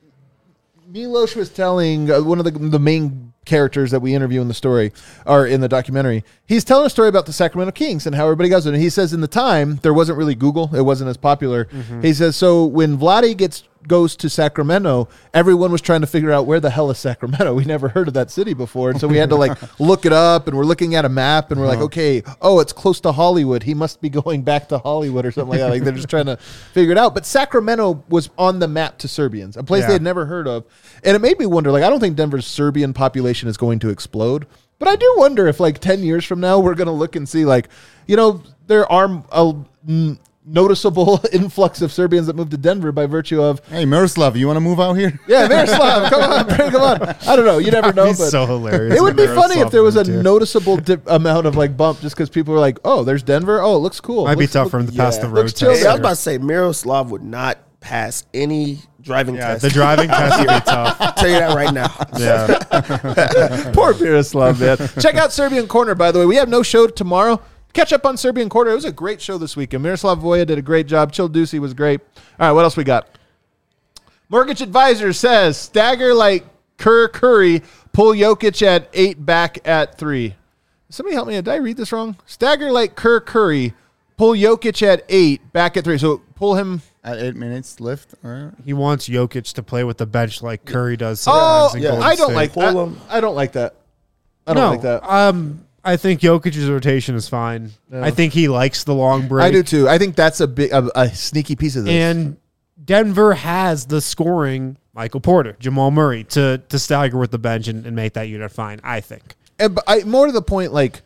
Milos was telling one of the main characters that we interview in the story or in the documentary. He's telling a story about the Sacramento Kings and how everybody goes. And he says in the time there wasn't really Google; it wasn't as popular. He says so when Vlade goes to Sacramento, everyone was trying to figure out where the hell is Sacramento. We never heard of that city before, and so we had to like look it up. And we're looking at a map, and we're like, okay, it's close to Hollywood. He must be going back to Hollywood or something like that. Like they're just trying to figure it out. But Sacramento was on the map to Serbians, a place Yeah. they had never heard of, and it made me wonder. Like I don't think Denver's Serbian population is going to explode, but I do wonder if like 10 years from now we're going to look and see like there are a noticeable influx of Serbians that moved to Denver by virtue of Hey, Miroslav, you want to move out here? Miroslav, come on, bring him on. I don't know, you never know, That'd be but so hilarious. it would if be funny if Miroslav there was a moved here. noticeable amount of like bump just because people were like, oh, there's Denver, oh, it looks cool. Might be Looks- tough for him to pass the road looks chill test. Hey, I was there. about to say Miroslav would not pass any driving Yeah, test. the driving test would be tough. I'll tell you that right now. Yeah. Poor Miroslav, man. Check out Serbian Corner, by the way. We have no show tomorrow. Catch up on Serbian Corner. It was a great show this weekend. Miroslav Voja did a great job. Childucci was great. All right, what else we got? Mortgage Advisor says, stagger like Kerr Curry, pull Jokic at 8, back at 3. Somebody help me. Did I read this wrong? Stagger like Kerr Curry, pull Jokic at 8, back at 3. So pull him. At 8 minutes left. All right. He wants Jokic to play with the bench like Curry does Oh, sometimes in Golden I don't State. like Pull that. him. I don't like that. I don't like that. I think Jokic's rotation is fine. I think he likes the long break. I do too. I think that's a sneaky piece of this. And Denver has the scoring Michael Porter, Jamal Murray to stagger with the bench and make that unit fine, I think. But more to the point, like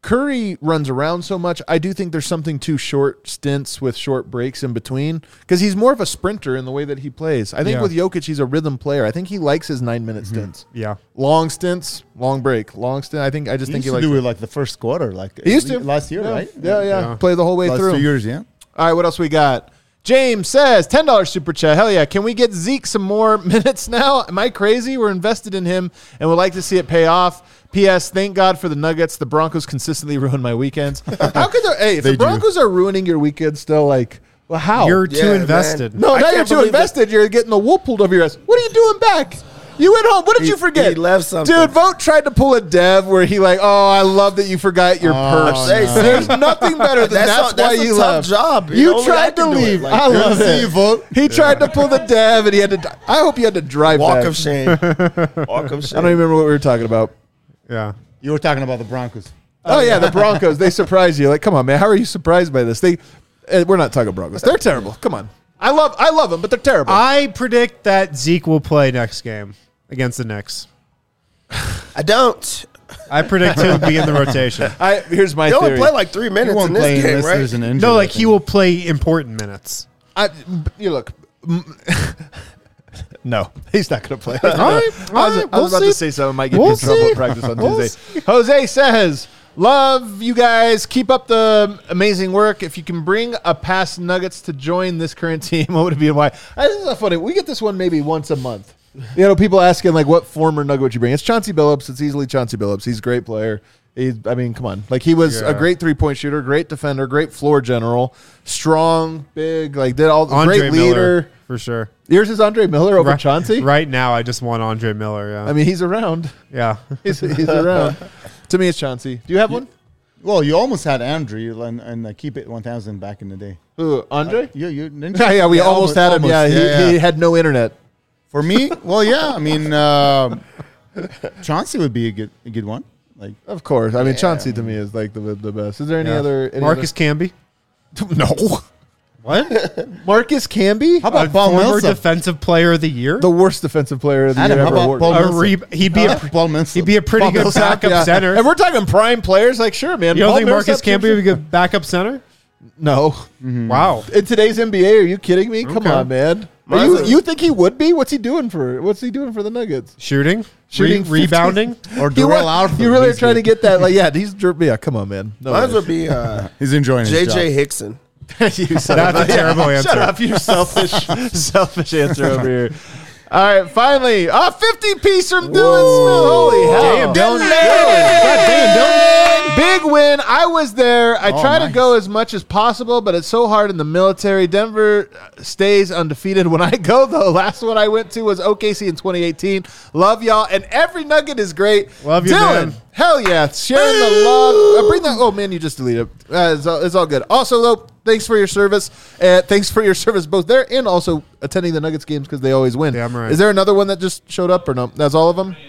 Curry runs around so much. I do think there's something to short stints with short breaks in between because he's more of a sprinter in the way that he plays. I think with Jokic, he's a rhythm player. I think he likes his 9-minute stints. Yeah. Long stints, long break, long stint. I just think he likes do it. it like the first quarter, like He used to last year, right? Yeah. Play the whole way Last through. 2 years, yeah. All right, what else we got? James says, $10 super chat. Hell yeah. Can we get Zeke some more minutes now? Am I crazy? We're invested in him and would like to see it pay off. P.S. Thank God for the Nuggets. The Broncos consistently ruin my weekends. How could there? Hey, if the Broncos are ruining your weekend still, like, well, how? You're too invested. Man. No, now you're too invested. You're getting the wool pulled over your ass. What are you doing back? You went home. What did you forget? He left something. Dude, Vogt tried to pull a Dev where he like, oh, I love that you forgot your purse. no. There's nothing better than that's why a you tough left. job. You Only I tried to can do it. leave. Like, I love See you, it. Vogt. He tried to pull the Dev and he had to. I hope you had to drive Walk back. of shame. Walk of shame. I don't even remember what we were talking about. Yeah. You were talking about the Broncos. Oh yeah, the Broncos. They surprised you. Like, come on, man. How are you surprised by this? We're not talking Broncos. They're terrible. Come on. I love them, but they're terrible. I predict that Zeke will play next game against the Knicks. I don't. I predict he'll be in the rotation. Here's my They only theory. play like 3 He minutes in won't this play game, unless right? there's an injury. No, like I he think. will play important minutes. You look. No, he's not going to play. right, I was about we'll to see. say something. Might get We'll me in trouble see. at practice on We'll Tuesday. Jose says, "Love you guys. Keep up the amazing work. If you can bring a past Nuggets to join this current team, what would it be and why?" This is not funny. We get this one maybe once a month. You know, people asking like, "What former Nugget would you bring?" It's Chauncey Billups. It's easily Chauncey Billups. He's a great player. Come on. Like, he was a great 3-point shooter, great defender, great floor general, strong, big, like did all Andre great Miller, leader. for sure. Yours is Andre Miller over Chauncey? Right now, I just want Andre Miller. Yeah. I mean, he's around. yeah. He's around. To me, it's Chauncey. Do you have one? Well, you almost had Andrew and Keep It 1000 back in the day. Who, Andre? You didn't Yeah, you? we almost had him. almost. Yeah, he had no internet. For me, well, yeah. I mean, Chauncey would be a good one. Like, Of course. I mean, Chauncey to me is like the best. Is there any Yeah. other? Marcus Camby. No. What? Marcus Camby? how about A Paul former Millsap? defensive player of the year. The worst defensive player of the Adam, year how ever about awarded. Paul A Millsap? he'd be a Paul Millsap. he'd be a pretty Paul good Millsap, backup yeah. center. And we're talking prime players. Like, sure, man. You don't Paul think Marcus Millsap Camby should- would be a good backup center? No. Wow. In today's NBA, are you kidding me? Come Okay. on, man. You think he would be? What's he doing for the Nuggets? Shooting, Shooting 50. rebounding. Or You, Darrell Alford. you really are He's trying to good. get that? Like, yeah, come on, man. No Mine way. would be He's enjoying his J.J. job. Hickson. You son That's of a terrible answer. Shut up, you selfish answer over here. All right, finally, 50-piece from Dylan Smith. Holy hell. Damn, Dylan. God damn, Dylan. Big win. I was there. I try to nice. go as much as possible, but it's so hard in the military. Denver stays undefeated. When I go, though, last one I went to was OKC in 2018. Love y'all. And every nugget is great. Love you, Dylan, man. hell yeah. Sharing the love. Bring that. Oh, man, you just deleted it. It's all good. Also, though, thanks for your service. Thanks for your service both there and also attending the Nuggets games because they always win. Damn right. Is there another one that just showed up or no? That's all of them?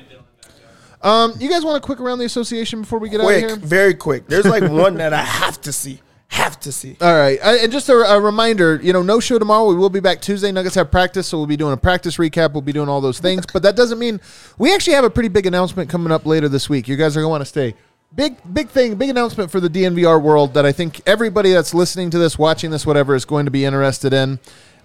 You guys want to quick around the association before we get out of Quick, here? very quick. There's like one that I have to see. Have to see. All right. And just a reminder, no show tomorrow. We will be back Tuesday. Nuggets have practice, so we'll be doing a practice recap. We'll be doing all those things. But that doesn't mean we actually have a pretty big announcement coming up later this week. You guys are going to want to stay. Big thing, big announcement for the DNVR world that I think everybody that's listening to this, watching this, whatever, is going to be interested in.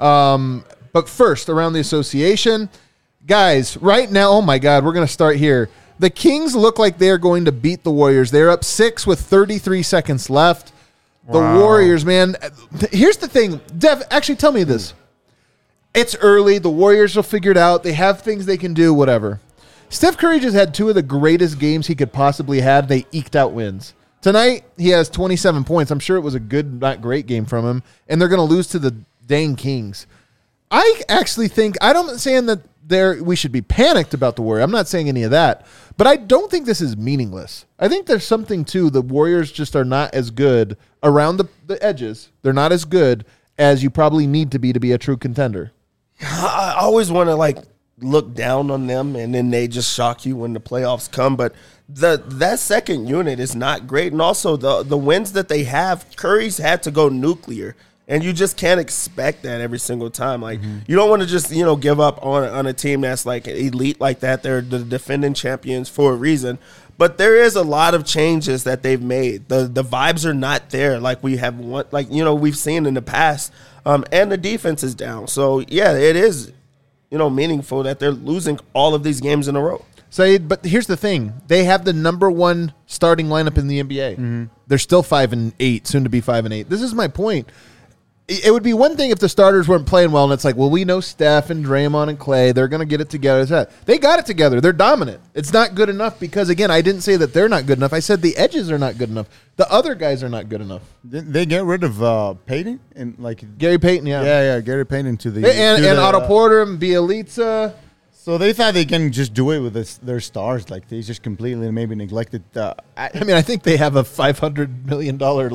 But first, around the association, guys, right now, oh my God, we're going to start here. The Kings look like they're going to beat the Warriors. They're up 6 with 33 seconds left. The Warriors, man. Here's the thing. Dev, actually tell me this. It's early. The Warriors will figure it out. They have things they can do, whatever. Steph Curry just had 2 of the greatest games he could possibly have. They eked out wins. Tonight, he has 27 points. I'm sure it was a good, not great game from him. And they're going to lose to the dang Kings. I actually think, I'm not saying that we should be panicked about the Warriors. I'm not saying any of that. But I don't think this is meaningless. I think there's something to the Warriors just are not as good around the edges. They're not as good as you probably need to be a true contender. I always want to look down on them, and then they just shock you when the playoffs come. But that second unit is not great, and also the wins that they have, Curry's had to go nuclear And you just can't expect that every single time. Like, you don't want to just, give up on a team that's like elite like that. They're the defending champions for a reason. But there is a lot of changes that they've made. The vibes are not there like we have we've seen in the past. And the defense is down. So yeah, it is, meaningful that they're losing all of these games in a row. Saeed, but here's the thing. They have the number one starting lineup in the NBA. They're still 5-8, soon to be 5-8. This is my point. It would be one thing if the starters weren't playing well, and it's like, well, we know Steph and Draymond and Clay. They're going to get it together. They got it together. They're dominant. It's not good enough because, again, I didn't say that they're not good enough. I said the edges are not good enough. The other guys are not good enough. Didn't they get rid of Payton? And Gary Payton, Yeah, Gary Payton to the... And Otto Porter and Bielitsa. So they thought they can just do it with their stars. Like, they just completely maybe neglected... I think they have a $500 million...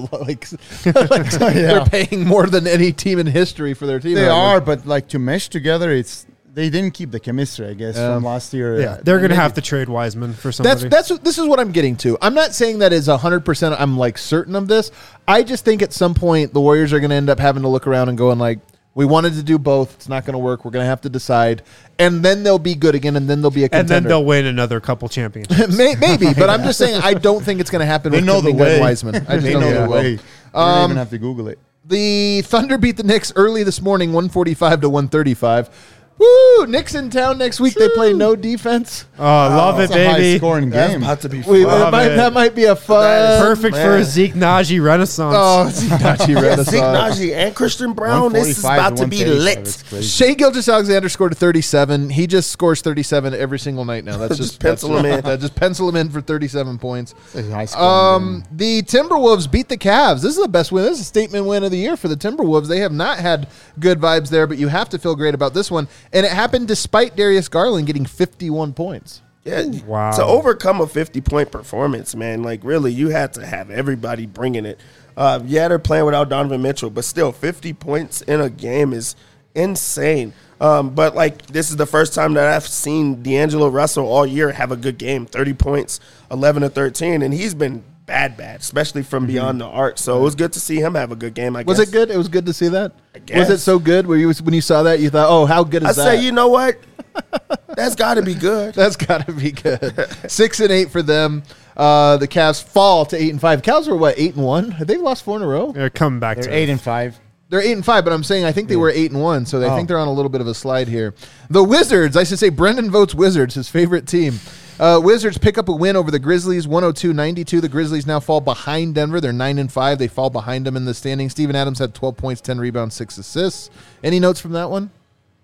They're paying more than any team in history for their team. They are, but to mesh together, they didn't keep the chemistry, I guess, from last year. Yeah, they're going to have to trade Wiseman for somebody. This is what I'm getting to. I'm not saying that is 100%. I'm certain of this. I just think at some point the Warriors are going to end up having to look around and going we wanted to do both. It's not going to work. We're going to have to decide. And then they'll be good again, and then they'll be a contender. And then they'll win another couple championships. Maybe, but I'm just saying I don't think it's going to happen with Glenn Wiseman. I just don't know the way. You don't even have to Google it. The Thunder beat the Knicks early this morning, 145 to 135. Woo! Knicks in town next week. They play no defense. Oh, love it, It's a baby. high-scoring That's game. about to be fun. That might be a fun. Perfect for a Zeke Naji renaissance. Oh, Zeke Renaissance. Zeke Naji and Christian Brown. This is 145 about to be 135. lit. That's crazy. Shea Gilgeous-Alexander scored a 37. He just scores 37 every single night now. That's Just pencil him in. Just pencil him in for 37 points. It's a high-scoring game. The Timberwolves beat the Cavs. This is the best win. This is a statement win of the year for the Timberwolves. They have not had good vibes there, but you have to feel great about this one. And it happened despite Darius Garland getting 51 points. Yeah, Wow. To overcome a 50-point performance, man, really, you had to have everybody bringing it. They're playing without Donovan Mitchell, but still, 50 points in a game is insane. But, this is the first time that I've seen D'Angelo Russell all year have a good game, 30 points, 11 to 13, and he's been bad, especially from beyond the arc. So it was good to see him have a good game, I guess. Was it good? It was good to see that? guess. Was it so good? When you saw that, you thought, oh, how good is that? I say, you know what? That's got to be good. That's got to be good. 6-8 for them. The Cavs fall to 8-5. Cavs were what, 8-1? Have they lost 4 in a row? They're coming back They're to 8-5. They're 8-5, but I'm saying I think they were 8-1, so I think they're on a little bit of a slide here. The Wizards, I should say Brendan votes Wizards, his favorite team. Wizards pick up a win over the Grizzlies, 102-92. The Grizzlies now fall behind Denver. They're 9-5. They fall behind them in the standings. Steven Adams had 12 points, 10 rebounds, 6 assists. Any notes from that one?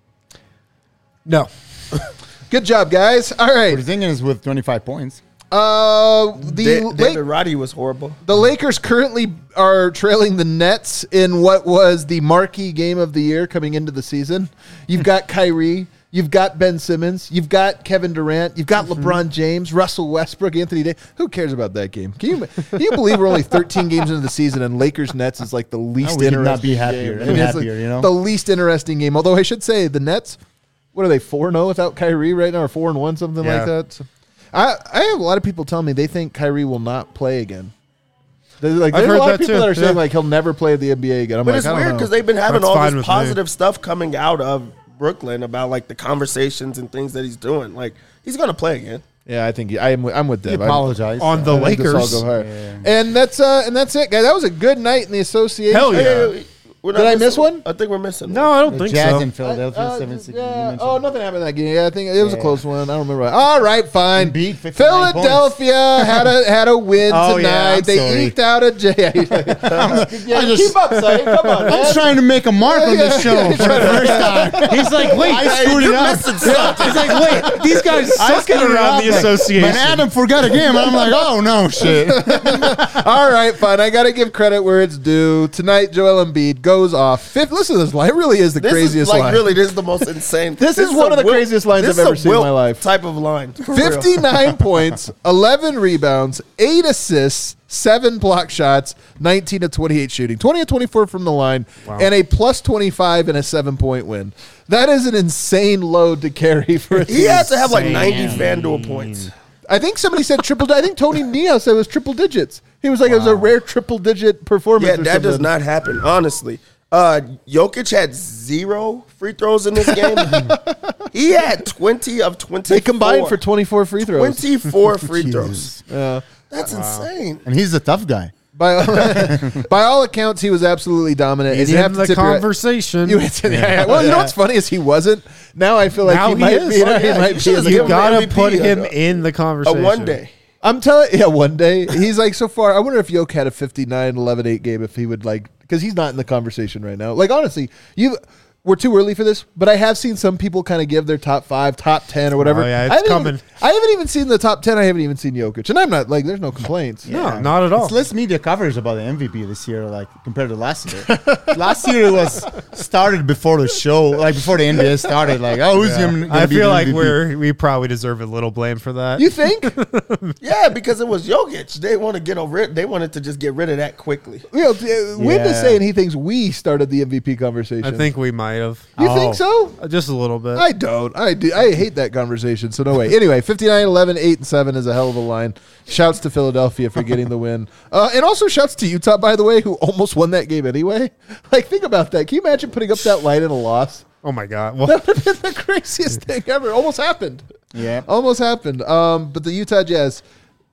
No. Good job, guys. All right. Porzingis with 25 points. David Roddy was horrible. The Lakers currently are trailing the Nets in what was the marquee game of the year coming into the season. You've got Kyrie. You've got Ben Simmons. You've got Kevin Durant. You've got LeBron James, Russell Westbrook, Anthony Davis. Who cares about that game? Can you believe we're only 13 games into the season and Lakers Nets is like the least we could interesting not be happier. game? Any It's happier, you know? The least interesting game. Although I should say the Nets, what are they, 4-0 without Kyrie right now, or 4-1, something like that? So, I have a lot of people telling me they think Kyrie will not play again. There's a heard lot that of people too. that are saying Yeah. he'll never play the NBA again. I'm But like, it's I don't weird know. because they've been having That's all fine this with me. positive stuff coming out of Brooklyn about like the conversations and things that he's doing. Like he's gonna play again. Yeah, I think I'm with He Deb. apologized. On the I think this all Lakers. go hard. Yeah. And that's it, guys. That was a good night in the association. Hell yeah. Hey, we're not Did I missing miss one? I think we're missing No, I don't The think Jazz so. in Philadelphia, 7-6. you mentioned. Oh, nothing happened in that game. Yeah, I think it was a close one. I don't remember. All right, fine. Beat 59 Philadelphia had a win Oh, yeah, tonight. I'm they sorry. eked out a J. just- keep up, Sonny. Come on, I man. was trying to make a mark on this show for the first time. He's like, wait. I screwed it up. He's like, wait. These guys I suck it screwed it around up, the like, association. Man, Adam forgot a game. And I'm like, oh, no, shit. All right, fine. I got to give credit where it's due. Tonight, Joel Embiid goes off. Listen to this line. It really is the This craziest is like line. really, this is the most insane. This is one a of the craziest lines this I've is ever a seen in my Wilt life. Type of line. For real. 59 points, 11 rebounds, 8 assists, 7 block shots, 19 to 28 shooting, 20 to 24 from the line, and a plus 25 and a 7-point win. That is an insane load to carry for a He team. has to have like 90 FanDuel points. I think somebody said triple. I think Tony Neo said it was triple digits. He was like, it was a rare triple digit performance. Yeah, or that does something. not happen. Honestly, Jokic had 0 free throws in this game. He had 20 of 24. They combined for 24 free throws. 24 free throws. Yeah. That's insane. And he's a tough guy. By all accounts, he was absolutely dominant. He's and you in have to the tip your- conversation. Well, you know what's funny is he wasn't. Now I feel like Now he he might is. be. You know, Oh, he yeah, might you be. should've You given him gotta MVP, put him a in the conversation. one day. I'm telling you, one day. He's like, so far, I wonder if Yoke had a 59, 11, 8 game, if he would because he's not in the conversation right now. Like, honestly, we're too early for this, but I have seen some people kind of give their top 5, top 10 or whatever. Oh, yeah, it's I haven't coming. I haven't even seen the top 10. I haven't even seen Jokic. And I'm not, there's no complaints. No, not at all. It's less media coverage about the MVP this year, compared to last year. Last year it was started before the show, before the NBA started. Who's going to I be feel the like MVP? we probably deserve a little blame for that. You think? Yeah, because it was Jokic. They want to get over it. They wanted to just get rid of that quickly. Wim is saying he thinks we started the MVP conversation. I think we might have. You think so? Just a little bit. I don't. I do. I hate that conversation. So no way. Anyway, 59, 11, 8, and 7 is a hell of a line. Shouts to Philadelphia for getting the win. And also shouts to Utah, by the way, who almost won that game anyway. Think about that. Can you imagine putting up that line in a loss? Oh my God. Well, That would have been the craziest thing ever. Almost happened. Yeah. Almost happened. But the Utah Jazz,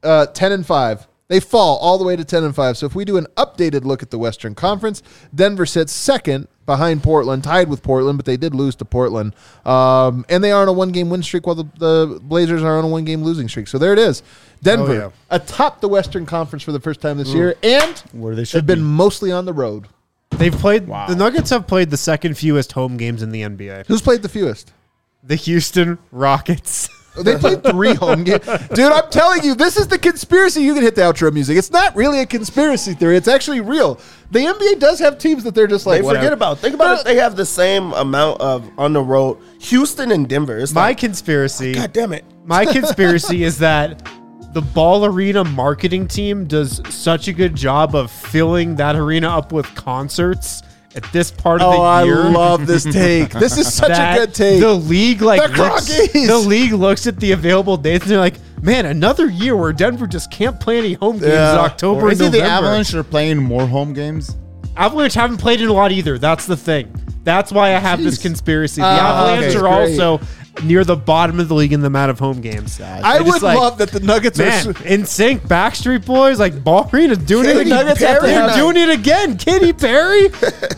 10-5. They fall all the way to 10-5. So if we do an updated look at the Western Conference, Denver sits second behind Portland, tied with Portland, but they did lose to Portland. And they are on a one-game win streak while the Blazers are on a one-game losing streak. So there it is. Denver atop the Western Conference for the first time this year, and Where they they've should been be. mostly on the road. they've played. The Nuggets have played the second fewest home games in the NBA. Who's played the fewest? The Houston Rockets. They played 3 home games. Dude, I'm telling you, this is the conspiracy. You can hit the outro music. It's not really a conspiracy theory. It's actually real. The NBA does have teams that they're just like, They forget about. Think about it. They have the same amount of on the road. Houston and Denver. It's My like, conspiracy. God damn it. My conspiracy is that the Ball Arena marketing team does such a good job of filling that arena up with concerts at this part of the year. I love this take. This is such a that good take. The league Crockies. the league looks at the available dates and they're like, man, another year where Denver just can't play any home games Yeah. in October Or and is it November. the Avalanche are playing more home games? Avalanche haven't played in a lot either. That's the thing. That's why I have this conspircy. The Avalanche okay, are great. also near the bottom of the league in the amount of home games. I would love that the Nuggets Man, are. in sync, Backstreet Boys, like Ball Arena's doing it Katy again. Nuggets have to They're have- doing it again. Katy Perry,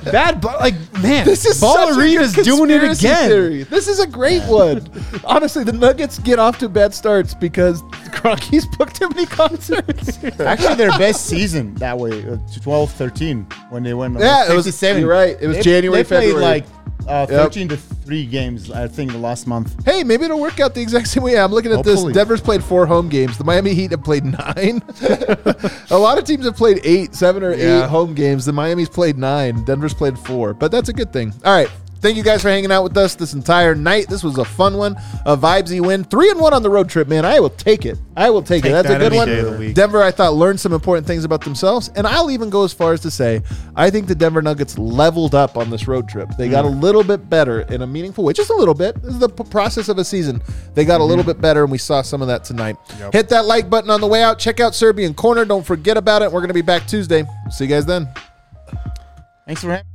man, This is Ball such Arena's a good doing it conspiracy again. theory. This is a great one. Honestly, the Nuggets get off to bad starts because Crockies booked too many concerts. Actually, their best season that way, 12-13, when they went Yeah, it was- 57. you're right. It was January, They played February. 13-3 games, I think, the last month. Hey, maybe it'll work out the exact same way. I'm looking at Hopefully. this. Denver's played 4 home games. The Miami Heat have played 9. A lot of teams have played 8, 7 or 8 home games. The Miami's played 9. Denver's played 4. But that's a good thing. All right. Thank you guys for hanging out with us this entire night. This was a fun one, a vibesy win. 3-1 on the road trip, man. I will take it. I will take it. That's a that good any day of the one. week. Denver, I thought, learned some important things about themselves. And I'll even go as far as to say, I think the Denver Nuggets leveled up on this road trip. They got a little bit better in a meaningful way. Just a little bit. This is the process of a season. They got a little bit better, and we saw some of that tonight. Hit that like button on the way out. Check out Serbian Corner. Don't forget about it. We're going to be back Tuesday. See you guys then. Thanks for having